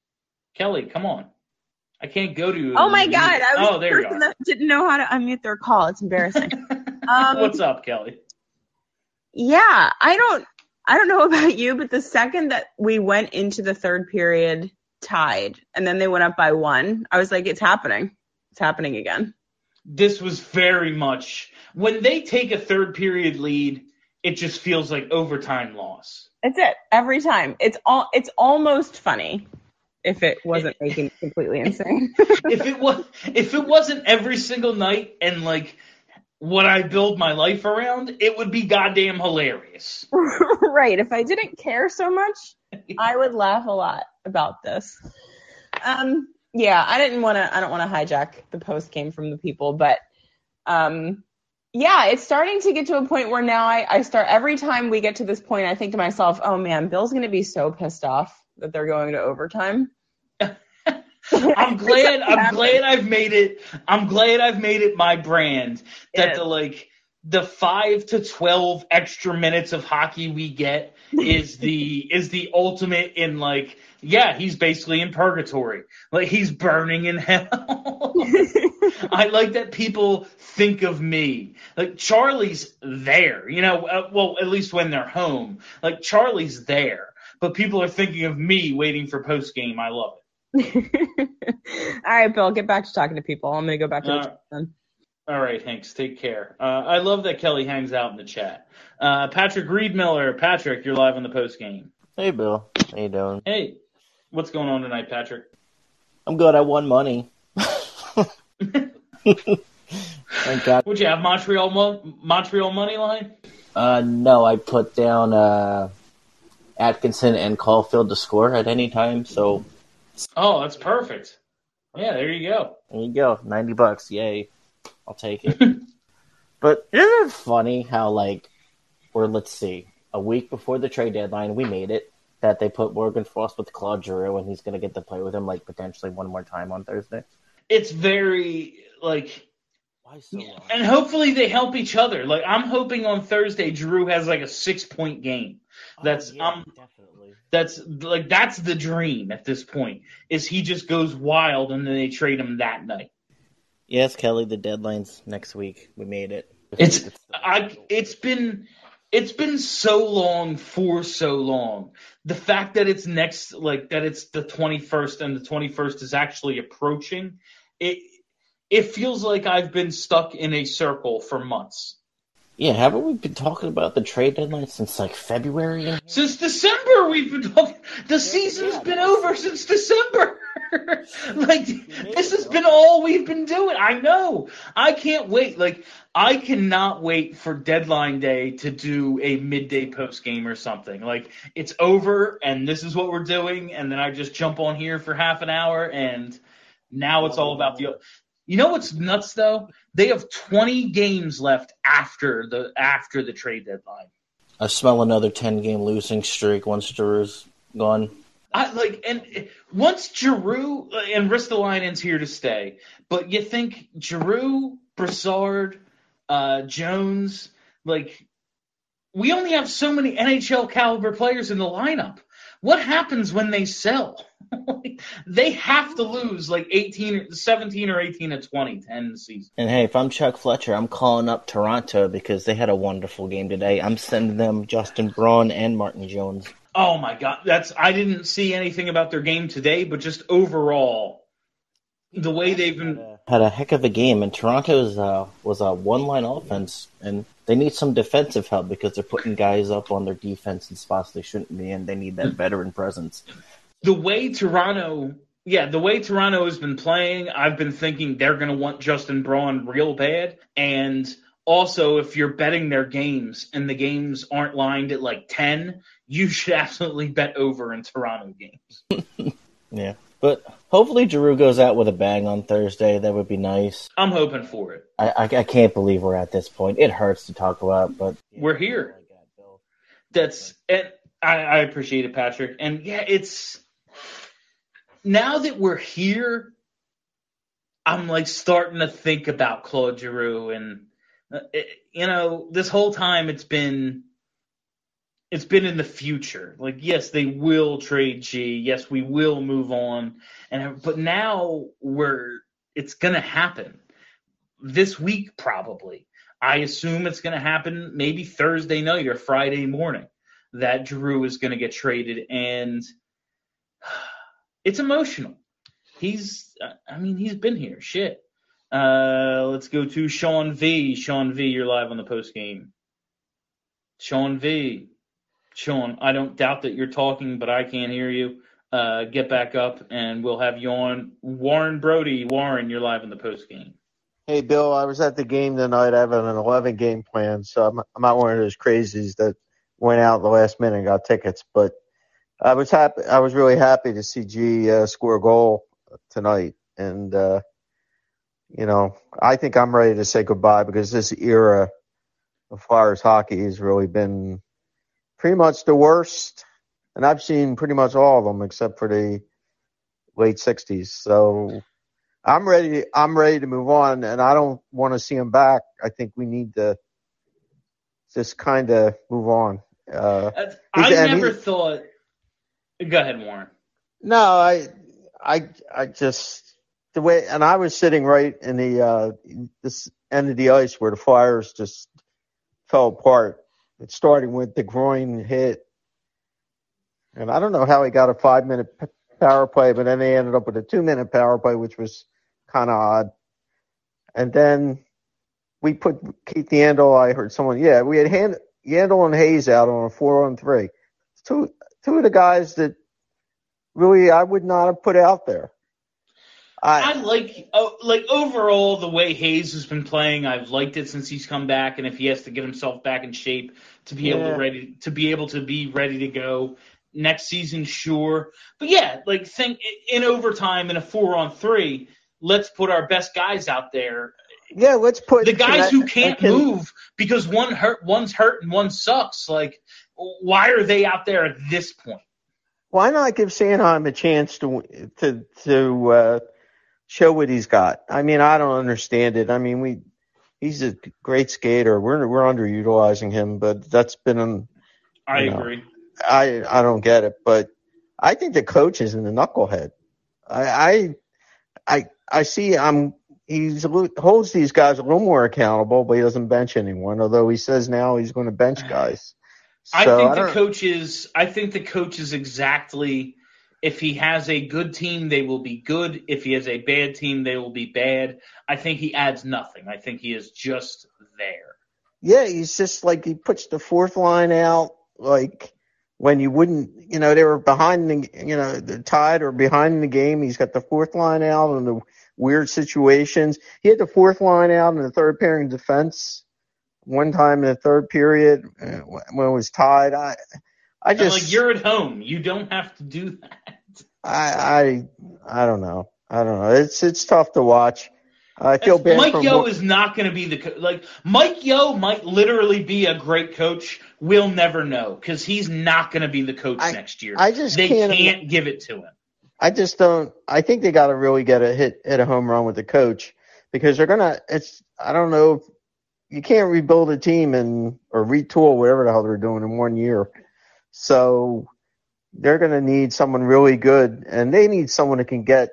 Kelly, come on. I can't go to you. Oh my God! I was oh, the there you person are. that didn't know how to unmute their call. It's embarrassing. um, What's up, Kelly? Yeah, I don't. I don't know about you, but the second that we went into the third period tied, and then they went up by one, I was like, "It's happening! It's happening again." This was very much when they take a third period lead. It just feels like overtime loss. That's it. Every time. It's all. It's almost funny. If it wasn't making me completely insane. if it was, if it wasn't every single night and like what I build my life around, it would be goddamn hilarious. Right. If I didn't care so much, I would laugh a lot about this. Um. Yeah. I didn't want to. I don't want to hijack the post game from the people, but um. Yeah, it's starting to get to a point where now I, I start every time we get to this point, I think to myself, oh man, Bill's going to be so pissed off that they're going to overtime. I'm glad I'm glad I've made it I'm glad I've made it my brand that the like the five to twelve extra minutes of hockey we get is the is the ultimate in like yeah, he's basically in purgatory. Like he's burning in hell. I like that people think of me. Like Charlie's there, you know, uh, well at least when they're home. Like Charlie's there. But people are thinking of me waiting for post game. I love it. All right, Bill, get back to talking to people. I'm going to go back to uh, the chat then. All right, Hanks, take care. Uh, I love that Kelly hangs out in the chat. Uh, Patrick Reed-Miller. Patrick, you're live on the post game. Hey, Bill. How you doing? Hey, what's going on tonight, Patrick? I'm good. I won money. Thank God. Would you have Montreal mo- Montreal money line? Uh, no, I put down uh, Atkinson and Caulfield to score at any time. So. Oh, that's perfect. Yeah, there you go. There you go. Ninety bucks. Yay. I'll take it. But isn't it funny how, like, we're, let's see, a week before the trade deadline, we made it, that they put Morgan Frost with Claude Giroux, and he's going to get to play with him, like, potentially one more time on Thursday. It's very, like, why so long? And hopefully they help each other. Like, I'm hoping on Thursday Giroux has, like, a six-point game. That's, oh, yeah, um, definitely. That's, like, that's the dream at this point, is he just goes wild and then they trade him that night. Yes, Kelly, the deadline's next week. We made it. It's, it's I it's been it's been so long for so long. The fact that it's next like that it's the twenty-first and the twenty-first is actually approaching, it it feels like I've been stuck in a circle for months. Yeah, haven't we been talking about the trade deadline since like February? Since December we've been talking. The yeah, season's yeah, been over since December. Like, this has been all we've been doing. I know. I can't wait. Like, I cannot wait for deadline day to do a midday post game or something. Like, it's over, and this is what we're doing, and then I just jump on here for half an hour, and now it's all about the. You know what's nuts though? They have twenty games left after the after the trade deadline. I smell another ten game losing streak once Giroux's gone. I like and once Giroux and Ristolainen's here to stay, but you think Giroux, Brassard, uh, Jones, like we only have so many N H L caliber players in the lineup. What happens when they sell? They have to lose like eighteen, seventeen or eighteen to twenty to end the season. And hey, if I'm Chuck Fletcher, I'm calling up Toronto because they had a wonderful game today. I'm sending them Justin Braun and Martin Jones. Oh my God, that's I didn't see anything about their game today, but just overall, the way they've been had a heck of a game. And Toronto's uh, was a one-line offense, and they need some defensive help because they're putting guys up on their defense in spots they shouldn't be in. They need that veteran presence. The way Toronto, yeah, the way Toronto has been playing, I've been thinking they're going to want Justin Braun real bad. And also, if you're betting their games and the games aren't lined at like ten, you should absolutely bet over in Toronto games. Yeah, but hopefully Giroux goes out with a bang on Thursday. That would be nice. I'm hoping for it. I, I, I can't believe we're at this point. It hurts to talk about, but yeah, we're here. That's and I, I appreciate it, Patrick. And yeah, it's now that we're here, I'm like starting to think about Claude Giroux, and uh, it, you know, this whole time it's been it's been in the future. Like, yes, they will trade G. Yes, we will move on. And but now we're it's gonna happen this week probably. I assume it's gonna happen maybe Thursday night or Friday morning that Drew is gonna get traded, and it's emotional. He's I mean he's been here. Shit. Uh, let's go to Sean V. Sean V, you're live on the post game. Sean V. Sean, I don't doubt that you're talking, but I can't hear you. Uh, get back up, and we'll have you on. Warren Brody. Warren, you're live in the post game. Hey, Bill, I was at the game tonight. I have an eleven-game plan, so I'm, I'm not one of those crazies that went out at the last minute and got tickets. But I was happy. I was really happy to see G uh, score a goal tonight, and uh, you know, I think I'm ready to say goodbye because this era of Flyers hockey has really been pretty much the worst, and I've seen pretty much all of them except for the late sixties. So I'm ready. I'm ready to move on, and I don't want to see him back. I think we need to just kind of move on. Uh, I never he, thought. Go ahead, Warren. No, I, I, I just the way, and I was sitting right in the uh, this end of the ice where the Flyers just fell apart. It started with the groin hit, and I don't know how he got a five-minute p- power play, but then they ended up with a two-minute power play, which was kind of odd. And then we put Keith Yandel. I heard someone, yeah, we had Hand, Yandel and Hayes out on a four-on-three. Two, two of the guys that really I would not have put out there. I, I like oh, like overall the way Hayes has been playing. I've liked it since he's come back, and if he has to get himself back in shape to be yeah. able to ready to be able to be ready to go next season, sure. But yeah, like think in overtime in a four on three, let's put our best guys out there. Yeah, let's put the guys I, who can't can, move because one hurt, one's hurt, and one sucks. Like, why are they out there at this point? Why not give Sanheim a chance to to to uh, show what he's got? I mean, I don't understand it. I mean, we he's a great skater. We're we're underutilizing him, but that's been an. I know, agree. I I don't get it, but I think the coach is in the knucklehead. I I I, I see. I'm he holds these guys a little more accountable, but he doesn't bench anyone. Although he says now he's going to bench guys. So, I think I the coach is. I think the coach is exactly. If he has a good team, they will be good. If he has a bad team, they will be bad. I think he adds nothing. I think he is just there. Yeah, he's just like he puts the fourth line out, like when you wouldn't, you know, they were behind the, you know, the tied or behind in the game. He's got the fourth line out in the weird situations. He had the fourth line out in the third pairing defense one time in the third period when it was tied. I, I just and like you're at home. You don't have to do that. I, I, I don't know. I don't know. It's it's tough to watch. I feel bad. Mike for Yeo Mo- is not going to be the co- like Mike Yeo might literally be a great coach. We'll never know because he's not going to be the coach I, next year. I just they can't, can't give it to him. I just don't. I think they got to really get a hit, hit a home run with the coach because they're gonna. It's. I don't know. You can't rebuild a team and or retool whatever the hell they're doing in one year. So they're going to need someone really good, and they need someone that can get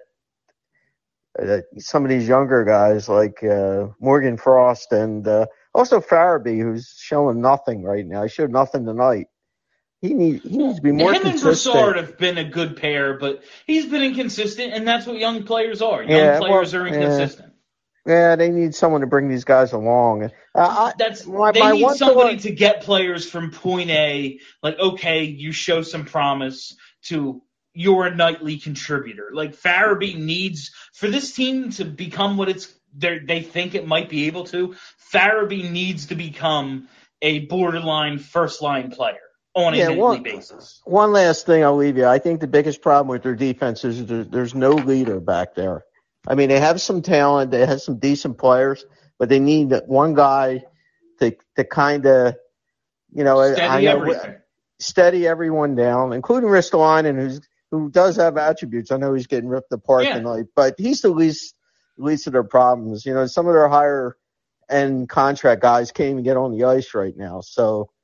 uh, some of these younger guys like uh, Morgan Frost and uh, also Farabee, who's showing nothing right now. He showed nothing tonight. He, need, he needs to be more Him consistent. Him and Broussard have been a good pair, but he's been inconsistent, and that's what young players are. Young yeah, players well, are inconsistent. Yeah. Yeah, they need someone to bring these guys along. Uh, I, That's my, they my need one somebody thought, to get players from point A. Like, okay, you show some promise to you're a nightly contributor. Like Farabee needs for this team to become what it's they think it might be able to. Farabee needs to become a borderline first line player on a yeah, nightly one, basis. One last thing, I'll leave you. I think the biggest problem with their defense is there, there's no leader back there. I mean, they have some talent, they have some decent players, but they need one guy to to kind of, you know, steady I know, everything. steady everyone down, including Ristolainen, who's who does have attributes. I know he's getting ripped apart yeah. tonight, but he's the least least of their problems. You know, some of their higher end contract guys can't even get on the ice right now. So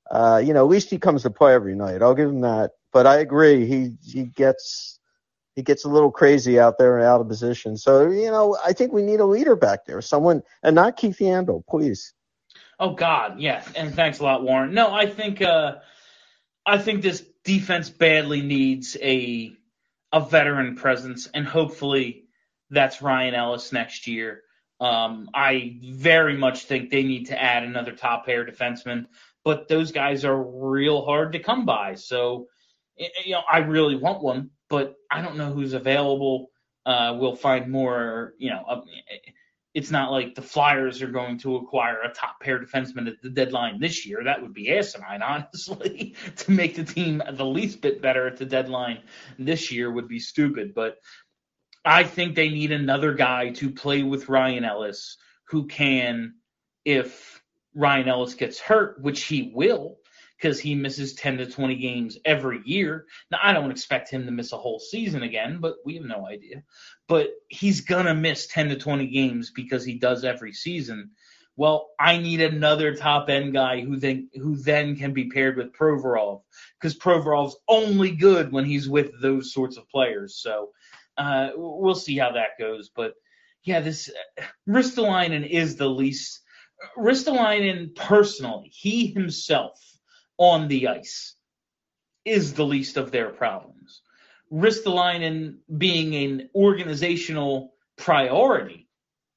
uh, you know, at least he comes to play every night. I'll give him that. But I agree, he he gets he gets a little crazy out there and out of position. So, you know, I think we need a leader back there, someone, and not Keith Yandel, please. Oh God, yeah, and thanks a lot, Warren. No, I think uh, I think this defense badly needs a a veteran presence, and hopefully that's Ryan Ellis next year. Um, I very much think they need to add another top pair defenseman, but those guys are real hard to come by. So, you know, I really want one, but I don't know who's available. Uh, we'll find more, you know, uh, it's not like the Flyers are going to acquire a top pair defenseman at the deadline this year. That would be asinine, honestly. To make the team the least bit better at the deadline this year would be stupid. But I think they need another guy to play with Ryan Ellis who can, if Ryan Ellis gets hurt, which he will, because he misses ten to twenty games every year. Now, I don't expect him to miss a whole season again, but we have no idea. But he's going to miss ten to twenty games because he does every season. Well, I need another top-end guy who then who then can be paired with Provorov, because Provorov's only good when he's with those sorts of players. So uh, we'll see how that goes. But, yeah, this uh, Ristolainen is the least – Ristolainen personally, he himself – on the ice is the least of their problems. Ristolainen being an organizational priority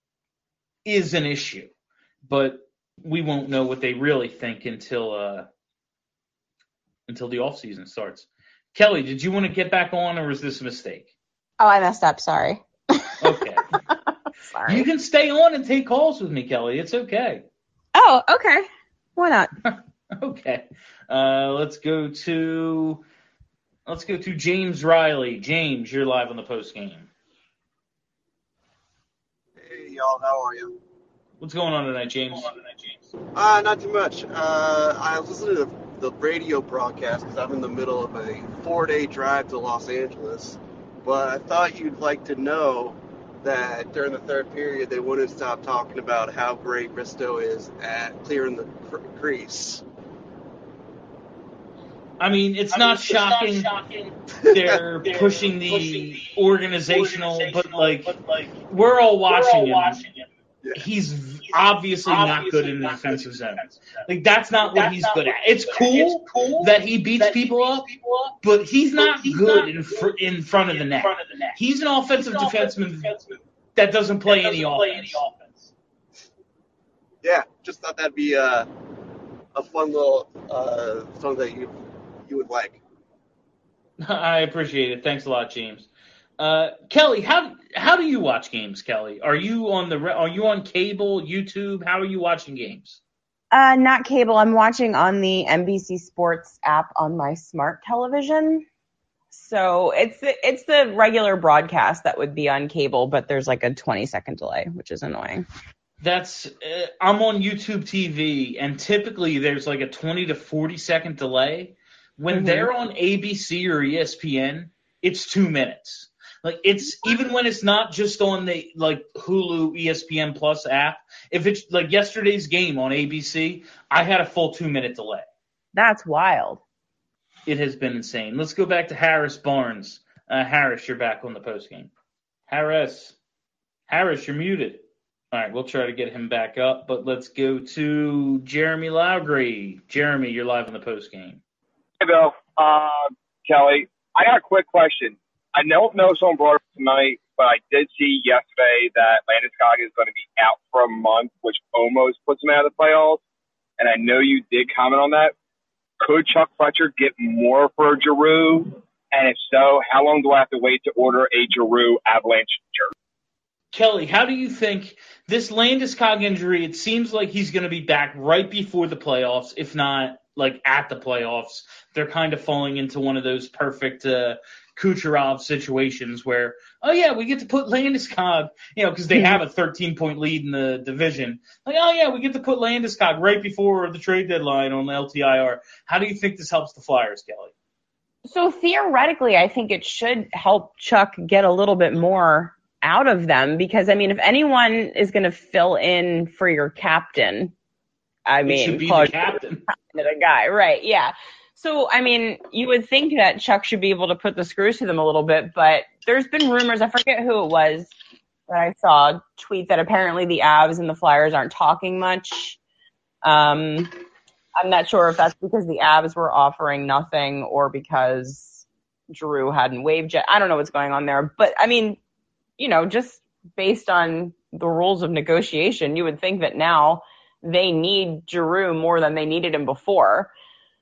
is an issue, but we won't know what they really think until uh, until the offseason starts. Kelly, did you want to get back on, or was this a mistake? Oh, I messed up. Sorry. Okay. Sorry. You can stay on and take calls with me, Kelly. It's okay. Oh, okay. Why not? Okay, uh, let's go to let's go to James Riley. James, you're live on the post game. Hey, y'all, how are you? What's going on tonight, James? Uh, not too much. Uh, I was listening to the radio broadcast because I'm in the middle of a four-day drive to Los Angeles. But I thought you'd like to know that during the third period, they wouldn't stop talking about how great Risto is at clearing the cr- crease. I mean, it's, I not, mean, it's shocking. not shocking. They're, They're pushing the, pushing the organizational, organizational, but like, but like we're all watching, we're all him. watching him. Yeah. He's, he's obviously, obviously not good in the defensive zone. Like, that's not that's what he's not good what at. It's cool, it's cool that he beats that people, he beats up, people up, but he's but not he's good not in, fr- in front of the net. Of the net. He's an offensive, he's an defenseman, defenseman that doesn't play, that doesn't any, play offense. any offense. Yeah, just thought that'd be uh, a fun little uh, song that you you would like. I appreciate it. Thanks a lot, James. Uh, Kelly, how how do you watch games, Kelly? Are you on the are you on cable, YouTube? How are you watching games? Uh, not cable. I'm watching on the N B C Sports app on my smart television. So it's the, it's the regular broadcast that would be on cable, but there's like a twenty second delay, which is annoying. That's uh, I'm on YouTube T V, and typically there's like a twenty to forty second delay. When mm-hmm. they're on A B C or E S P N, it's two minutes. Like, it's even when it's not just on the like Hulu, E S P N Plus app. If it's like yesterday's game on A B C, I had a full two minute delay. That's wild. It has been insane. Let's go back to Harris Barnes. Uh, Harris, you're back on the post game. Harris, Harris, you're muted. All right, we'll try to get him back up, but let's go to Jeremy Lowry. Jeremy, you're live on the post game. Hey, Bill. Uh, Kelly, I got a quick question. I don't know if someone brought it up tonight, but I did see yesterday that Landeskog is going to be out for a month, which almost puts him out of the playoffs. And I know you did comment on that. Could Chuck Fletcher get more for Giroux? And if so, how long do I have to wait to order a Giroux Avalanche jersey? Kelly, how do you think this Landeskog injury, it seems like he's going to be back right before the playoffs, if not like at the playoffs. They're kind of falling into one of those perfect uh, Kucherov situations where, oh, yeah, we get to put Landeskog, you know, because they have a thirteen-point lead in the division. Like, oh, yeah, we get to put Landeskog right before the trade deadline on L T I R. How do you think this helps the Flyers, Kelly? So theoretically, I think it should help Chuck get a little bit more out of them because, I mean, if anyone is going to fill in for your captain, I He mean, should be Claude the captain. The guy, right? Yeah. So, I mean, you would think that Chuck should be able to put the screws to them a little bit, but there's been rumors. I forget who it was that I saw tweet that apparently the Avs and the Flyers aren't talking much. Um, I'm not sure if that's because the Avs were offering nothing or because Drew hadn't waived yet. I don't know what's going on there, but I mean, you know, just based on the rules of negotiation, you would think that now they need Giroux more than they needed him before.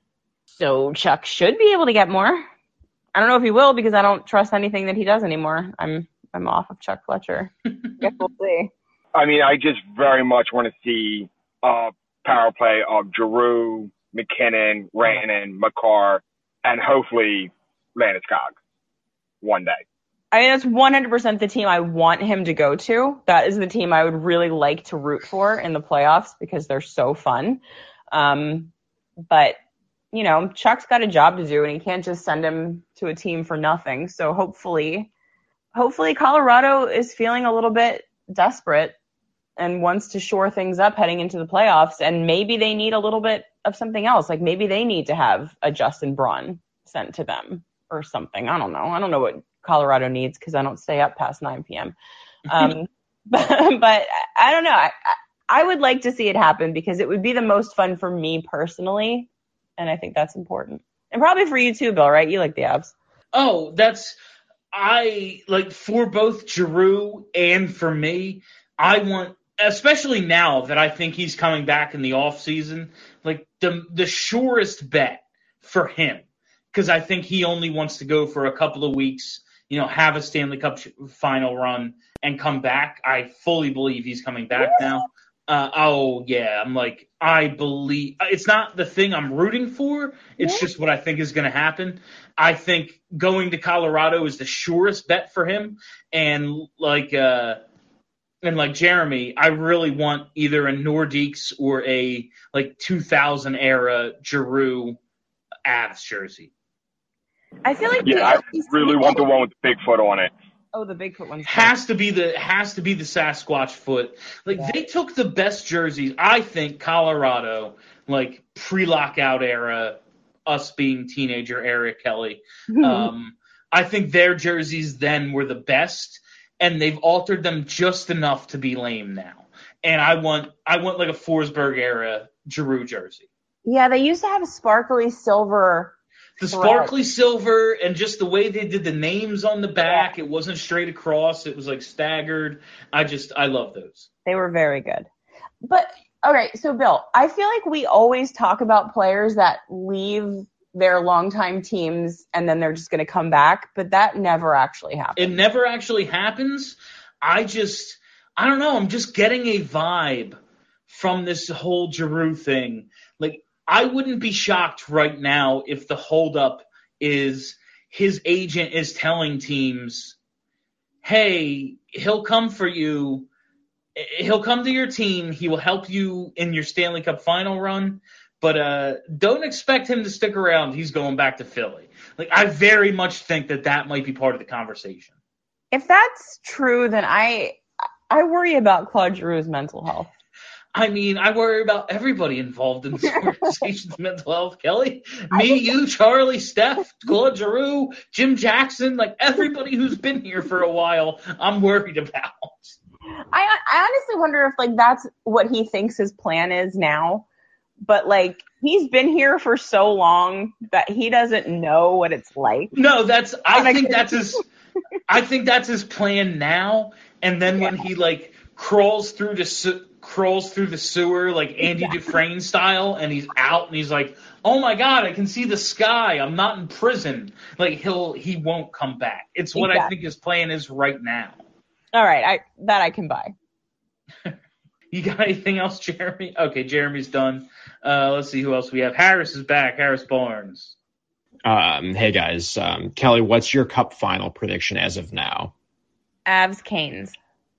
So Chuck should be able to get more. I don't know if he will because I don't trust anything that he does anymore. I'm I'm off of Chuck Fletcher. Guess we'll see. I mean, I just very much want to see a power play of Giroux, McKinnon, Rantanen, Makar, and hopefully Landeskog one day. I mean, that's one hundred percent the team I want him to go to. That is the team I would really like to root for in the playoffs because they're so fun. Um, but, you know, Chuck's got a job to do, and he can't just send him to a team for nothing. So hopefully, hopefully Colorado is feeling a little bit desperate and wants to shore things up heading into the playoffs. And maybe they need a little bit of something else. Like maybe they need to have a Justin Braun sent to them or something. I don't know. I don't know what Colorado needs because I don't stay up past nine p.m. Um, but, but I don't know. I, I would like to see it happen because it would be the most fun for me personally, and I think that's important. And probably for you too, Bill, right? You like the Avs. Oh, that's I like for both Giroux and for me. I want, especially now that I think he's coming back in the off season, like the the surest bet for him, because I think he only wants to go for a couple of weeks. You know, have a Stanley Cup final run and come back. I fully believe he's coming back now. Uh, oh, yeah. I'm like, I believe – it's not the thing I'm rooting for. It's yeah. just what I think is going to happen. I think going to Colorado is the surest bet for him. And like uh, and like Jeremy, I really want either a Nordiques or a like two thousand era Giroux Avs jersey. I feel like yeah, I really want the one with the Bigfoot on it. Oh, the Bigfoot one has to be the has to be the Sasquatch foot. Like yeah. they took the best jerseys. I think Colorado, like pre-lockout era, us being teenager Eric Kelly. um, I think their jerseys then were the best, and they've altered them just enough to be lame now. And I want I want like a Forsberg era Giroux jersey. Yeah, they used to have a sparkly silver. The sparkly silver and just the way they did the names on the back, it wasn't straight across. It was like staggered. I just, I love those. They were very good. But, okay, so Bill, I feel like we always talk about players that leave their longtime teams and then they're just going to come back, but that never actually happens. It never actually happens. I just, I don't know. I'm just getting a vibe from this whole Giroux thing. Like, I wouldn't be shocked right now if the holdup is his agent is telling teams, hey, he'll come for you. He'll come to your team. He will help you in your Stanley Cup final run. But uh, don't expect him to stick around. He's going back to Philly. Like, I very much think that that might be part of the conversation. If that's true, then I I worry about Claude Giroux's mental health. I mean, I worry about everybody involved in this organization's mental health, Kelly. Me, you, Charlie, Steph, Claude Giroux, Jim Jackson, like everybody who's been here for a while, I'm worried about. I, I honestly wonder if, like, that's what he thinks his plan is now. But, like, he's been here for so long that he doesn't know what it's like. No, that's, I think that's his, I think that's his plan now. And then yeah. when he, like, crawls through the crawls through the sewer like Andy yeah. Dufresne style, and he's out, and he's like, "Oh my God, I can see the sky. I'm not in prison." Like he'll he won't come back. It's what exactly. I think his plan is right now. All right, I that I can buy. You got anything else, Jeremy? Okay, Jeremy's done. Uh, let's see who else we have. Harris is back. Harris Barnes. Um, hey guys, um, Kelly, what's your Cup final prediction as of now? Avs Canes.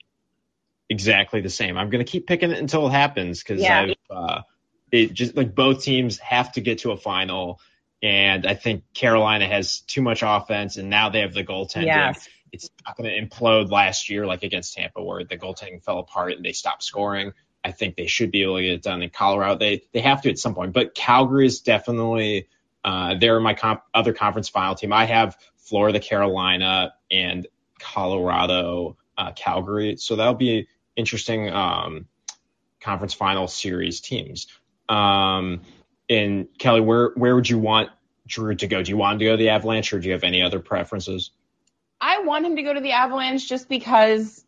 Exactly the same. I'm going to keep picking it until it happens because yeah. I've uh, it just like both teams have to get to a final, and I think Carolina has too much offense, and now they have the goaltending. Yes. It's not going to implode last year like against Tampa, where the goaltending fell apart and they stopped scoring. I think they should be able to get it done. In Colorado, they they have to at some point. But Calgary is definitely uh, they're my comp- other conference final team. I have Florida, Carolina, and Colorado, uh, Calgary. So that'll be interesting um, conference final series teams. Um, and Kelly, where where would you want Drew to go? Do you want him to go to the Avalanche, or do you have any other preferences? I want him to go to the Avalanche just because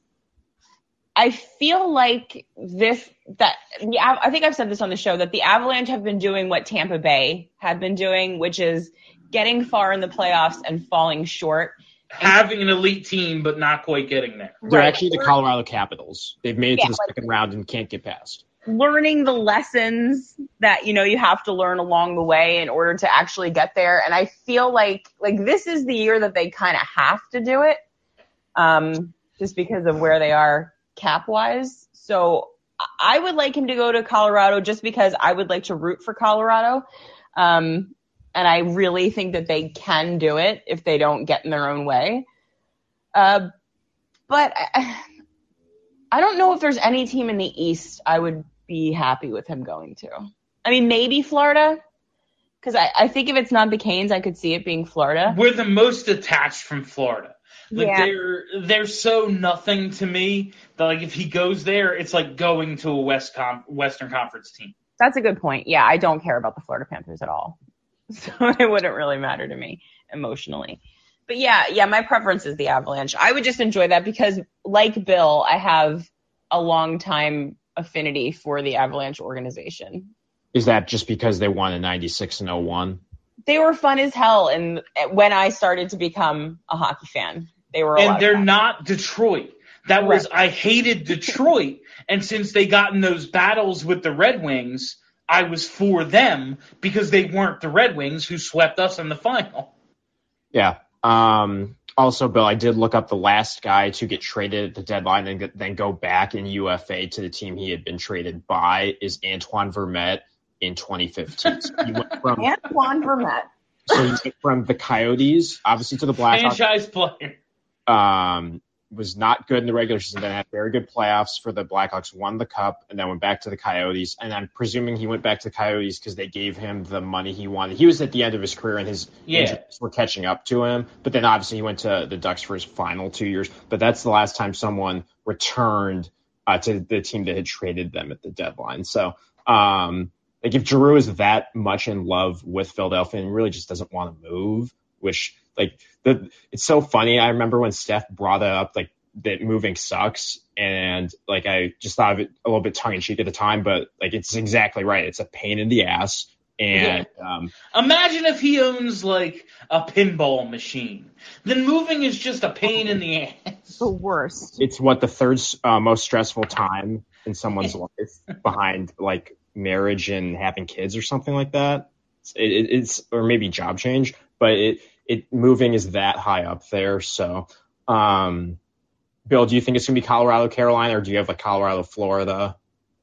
I feel like this that the I think I've said this on the show that the Avalanche have been doing what Tampa Bay had been doing, which is getting far in the playoffs and falling short. Having an elite team, but not quite getting there. They're right. actually the Colorado Capitals. They've made it yeah, to the like, second round and can't get past. Learning the lessons that, you know, you have to learn along the way in order to actually get there. And I feel like, like this is the year that they kind of have to do it, um, just because of where they are cap-wise. So I would like him to go to Colorado just because I would like to root for Colorado. Um, and I really think that they can do it if they don't get in their own way. Uh, but I, I don't know if there's any team in the East I would be happy with him going to. I mean, maybe Florida, because I, I think if it's not the Canes, I could see it being Florida. We're the most attached from Florida. Like yeah. they're they're so nothing to me that like if he goes there, it's like going to a West Com- Western Conference team. That's a good point. Yeah, I don't care about the Florida Panthers at all, so it wouldn't really matter to me emotionally. But yeah, yeah, my preference is the Avalanche. I would just enjoy that because, like Bill, I have a long time affinity for the Avalanche organization. Is that just because they won in ninety-six and oh one? They were fun as hell, and when I started to become a hockey fan, they were. A and lot they're of fun. not Detroit. That was I hated Detroit, and since they got in those battles with the Red Wings, I was for them because they weren't the Red Wings who swept us in the final. Yeah. Um, also, Bill, I did look up the last guy to get traded at the deadline and get, then go back in U F A to the team he had been traded by is Antoine Vermette in twenty fifteen. So he went from, Antoine Vermette. So he went from the Coyotes, obviously, to the Blackhawks. Franchise player. Um, was not good in the regular season, then had very good playoffs for the Blackhawks, won the cup, and then went back to the Coyotes. And I'm presuming he went back to the Coyotes because they gave him the money he wanted. He was at the end of his career, and his yeah. injuries were catching up to him. But then obviously he went to the Ducks for his final two years. But that's the last time someone returned uh, to the team that had traded them at the deadline. So, um, like if Giroux is that much in love with Philadelphia and really just doesn't want to move, which like the it's so funny. I remember when Steph brought it up, like that moving sucks, and like I just thought of it a little bit tongue in cheek at the time, but like it's exactly right. It's a pain in the ass. And yeah. um, imagine if he owns like a pinball machine. Then moving is just a pain in the ass. The worst. It's what the third uh, most stressful time in someone's life behind like marriage and having kids or something like that. It, it, it's or maybe job change, but it it moving is that high up there. So, um, Bill, do you think it's gonna be Colorado, Carolina, or do you have like Colorado, Florida?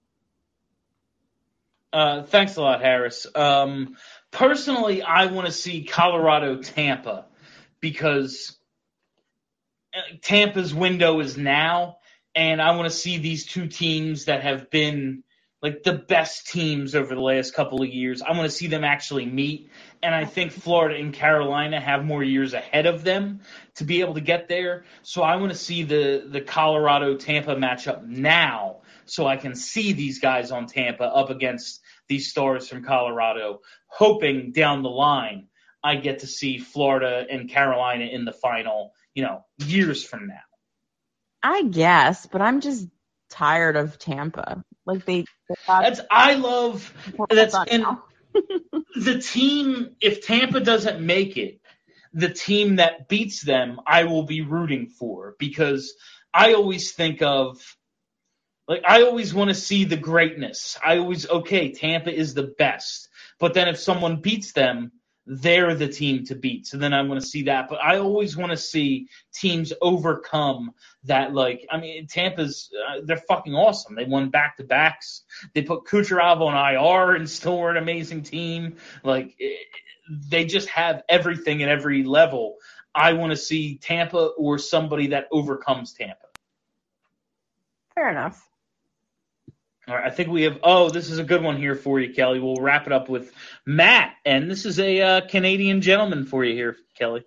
Uh, thanks a lot, Harris. Um, personally, I want to see Colorado, Tampa, because Tampa's window is now, and I want to see these two teams that have been like the best teams over the last couple of years. I want to see them actually meet, and I think Florida and Carolina have more years ahead of them to be able to get there. So I want to see the, the Colorado-Tampa matchup now so I can see these guys on Tampa up against these stars from Colorado, hoping down the line I get to see Florida and Carolina in the final, you know, years from now. I guess, but I'm just tired of Tampa. Like they, they that's I love that's and the team. If Tampa doesn't make it, the team that beats them, I will be rooting for because I always think of like I always want to see the greatness. I always okay, Tampa is the best, but then if someone beats them, they're the team to beat. So then I want to see that. But I always want to see teams overcome that. Like, I mean, Tampa's, uh, they're fucking awesome. They won back-to-backs. They put Kucherov on I R and still were an amazing team. Like, it, they just have everything at every level. I want to see Tampa or somebody that overcomes Tampa. Fair enough. All right, I think we have – oh, this is a good one here for you, Kelly. We'll wrap it up with Matt, and this is a uh, Canadian gentleman for you here, Kelly.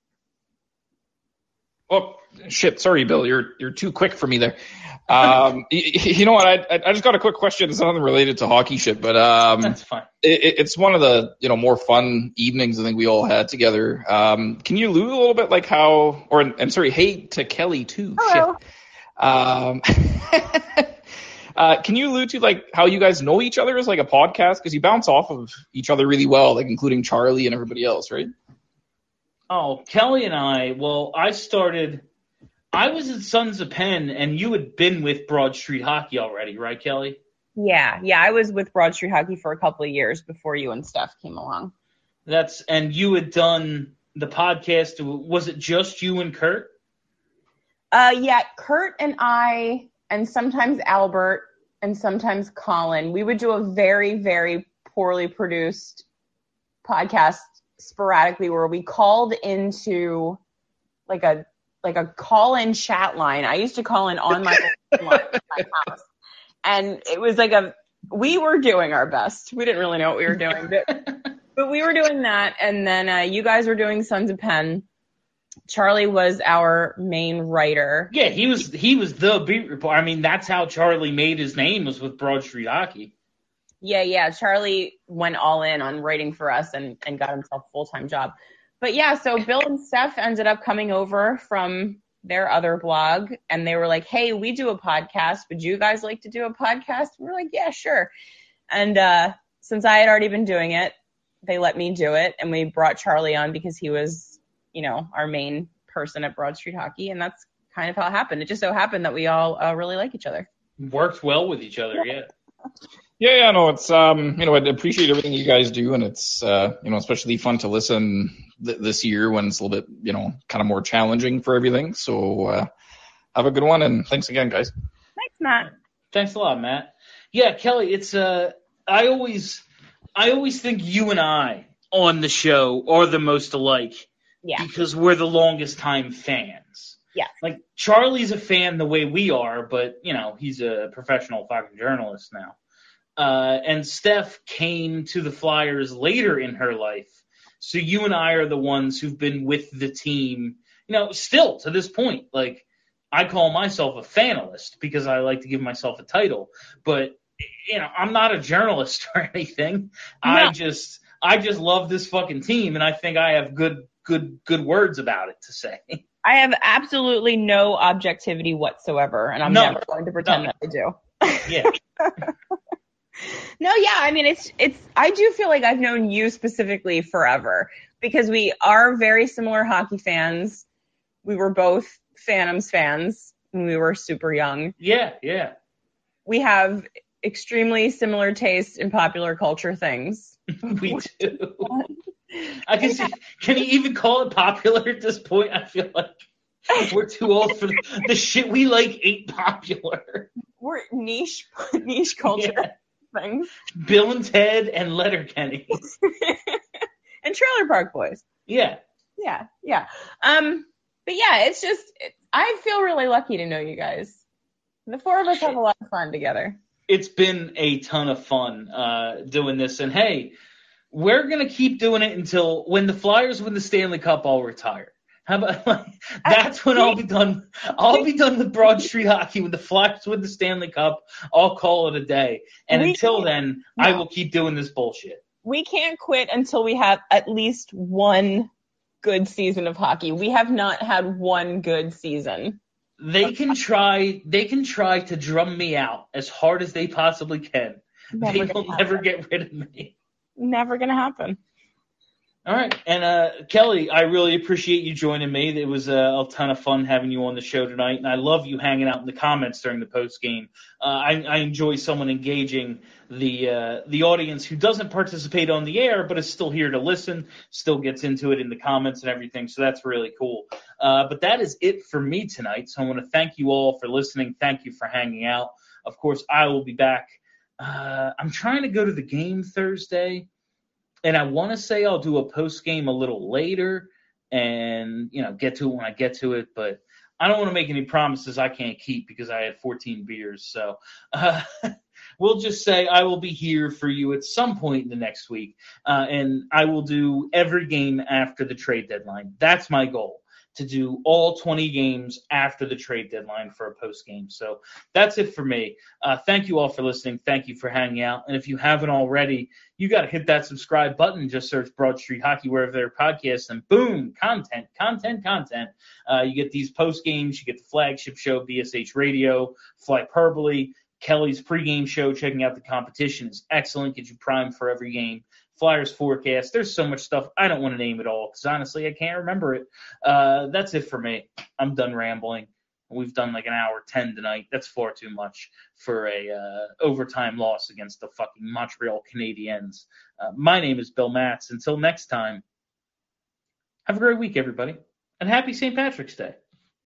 Oh, shit. Sorry, Bill. You're you're too quick for me there. Um, you, you know what? I I just got a quick question. It's nothing related to hockey shit, but um, That's fine. It, it's one of the you know more fun evenings I think we all had together. Um, can you allude a little bit like how, or and sorry, hey to Kelly too. Hello. Shit. Um, uh, can you allude to like how you guys know each other as like a podcast because you bounce off of each other really well, like including Charlie and everybody else, right? Oh, Kelly and I, well, I started, I was at Sons of Penn, and you had been with Broad Street Hockey already, right, Kelly? Yeah, yeah, I was with Broad Street Hockey for a couple of years before you and Steph came along. That's, and you had done the podcast, was it just you and Kurt? Uh, yeah, Kurt and I, and sometimes Albert, and sometimes Colin, we would do a very, very poorly produced podcast sporadically where we called into like a like a call-in chat line. I used to call in on my line at my house, and it was like a we were doing our best. We didn't really know what we were doing, but but we were doing that. And then uh, you guys were doing Sons of Penn. Charlie was our main writer. Yeah, he was he was the beat reporter. I mean, that's how Charlie made his name, was with Broad Street Hockey. Yeah, yeah. Charlie went all in on writing for us and, and got himself a full-time job. But yeah, so Bill and Steph ended up coming over from their other blog, and they were like, hey, we do a podcast. Would you guys like to do a podcast? And we're like, yeah, sure. And uh, since I had already been doing it, they let me do it, and we brought Charlie on because he was, you know, our main person at Broad Street Hockey, and that's kind of how it happened. It just so happened that we all uh, really like each other. Worked well with each other, yeah. Yeah, yeah, no, it's, um, you know, I appreciate everything you guys do, and it's, uh, you know, especially fun to listen th- this year when it's a little bit, you know, kind of more challenging for everything. So, uh, have a good one, and thanks again, guys. Thanks, Matt. Thanks a lot, Matt. Yeah, Kelly, it's, uh, I always, I always think you and I on the show are the most alike. Yeah. Because we're the longest time fans. Yeah. Like, Charlie's a fan the way we are, but, you know, he's a professional fucking journalist now. Uh, and Steph came to the Flyers later in her life. So you and I are the ones who've been with the team, you know, still to this point. Like, I call myself a fanalist because I like to give myself a title. But, you know, I'm not a journalist or anything. No. I just I just love this fucking team, and I think I have good, good, good words about it to say. I have absolutely no objectivity whatsoever, and I'm no, never going to pretend no. that I do. Yeah. No, yeah, I mean, it's, it's, I do feel like I've known you specifically forever because we are very similar hockey fans. We were both Phantoms fans when we were super young. Yeah, yeah. We have extremely similar tastes in popular culture things. We do. I can see, can you even call it popular at this point? I feel like we're too old for the, the shit we like ain't popular. We're niche, niche culture. Yeah. Things. Bill and Ted and Letterkenny. And Trailer Park Boys. Yeah. Yeah, yeah. Um, but yeah, it's just, it, I feel really lucky to know you guys. The four of us have a lot of fun together. It's been a ton of fun uh, doing this. And hey, we're going to keep doing it until when the Flyers win the Stanley Cup, I'll retire. How about like, that's when I'll be done. I'll be done with Broad Street Hockey when the Flyers win the Stanley Cup. I'll call it a day. And we until then, no. I will keep doing this bullshit. We can't quit until we have at least one good season of hockey. We have not had one good season. They can try. They can try to drum me out as hard as they possibly can. Never they will never get rid of me. Never gonna happen. All right. And, uh, Kelly, I really appreciate you joining me. It was a, a ton of fun having you on the show tonight, and I love you hanging out in the comments during the post game. Uh, I, I enjoy someone engaging the uh, the audience who doesn't participate on the air but is still here to listen, still gets into it in the comments and everything, so that's really cool. Uh, but that is it for me tonight, so I want to thank you all for listening. Thank you for hanging out. Of course, I will be back. Uh, I'm trying to go to the game Thursday. And I want to say I'll do a post game a little later and, you know, get to it when I get to it. But I don't want to make any promises I can't keep because I had fourteen beers. So, uh, we'll just say I will be here for you at some point in the next week, uh, and I will do every game after the trade deadline. That's my goal, to do all twenty games after the trade deadline for a post game. So that's it for me. Uh, thank you all for listening. Thank you for hanging out. And if you haven't already, you got to hit that subscribe button. Just search Broad Street Hockey wherever there are podcasts, and boom, content, content, content. Uh, you get these post games. You get the flagship show, B S H Radio, Flyperbole. Kelly's pregame show, checking out the competition, is excellent. Gets you primed for every game. Flyers forecast. There's so much stuff. I don't want to name it all because honestly, I can't remember it. Uh, that's it for me. I'm done rambling. We've done like an hour ten tonight. That's far too much for a uh, overtime loss against the fucking Montreal Canadiens. Uh, my name is Bill Matz. Until next time, have a great week, everybody, and happy Saint Patrick's Day.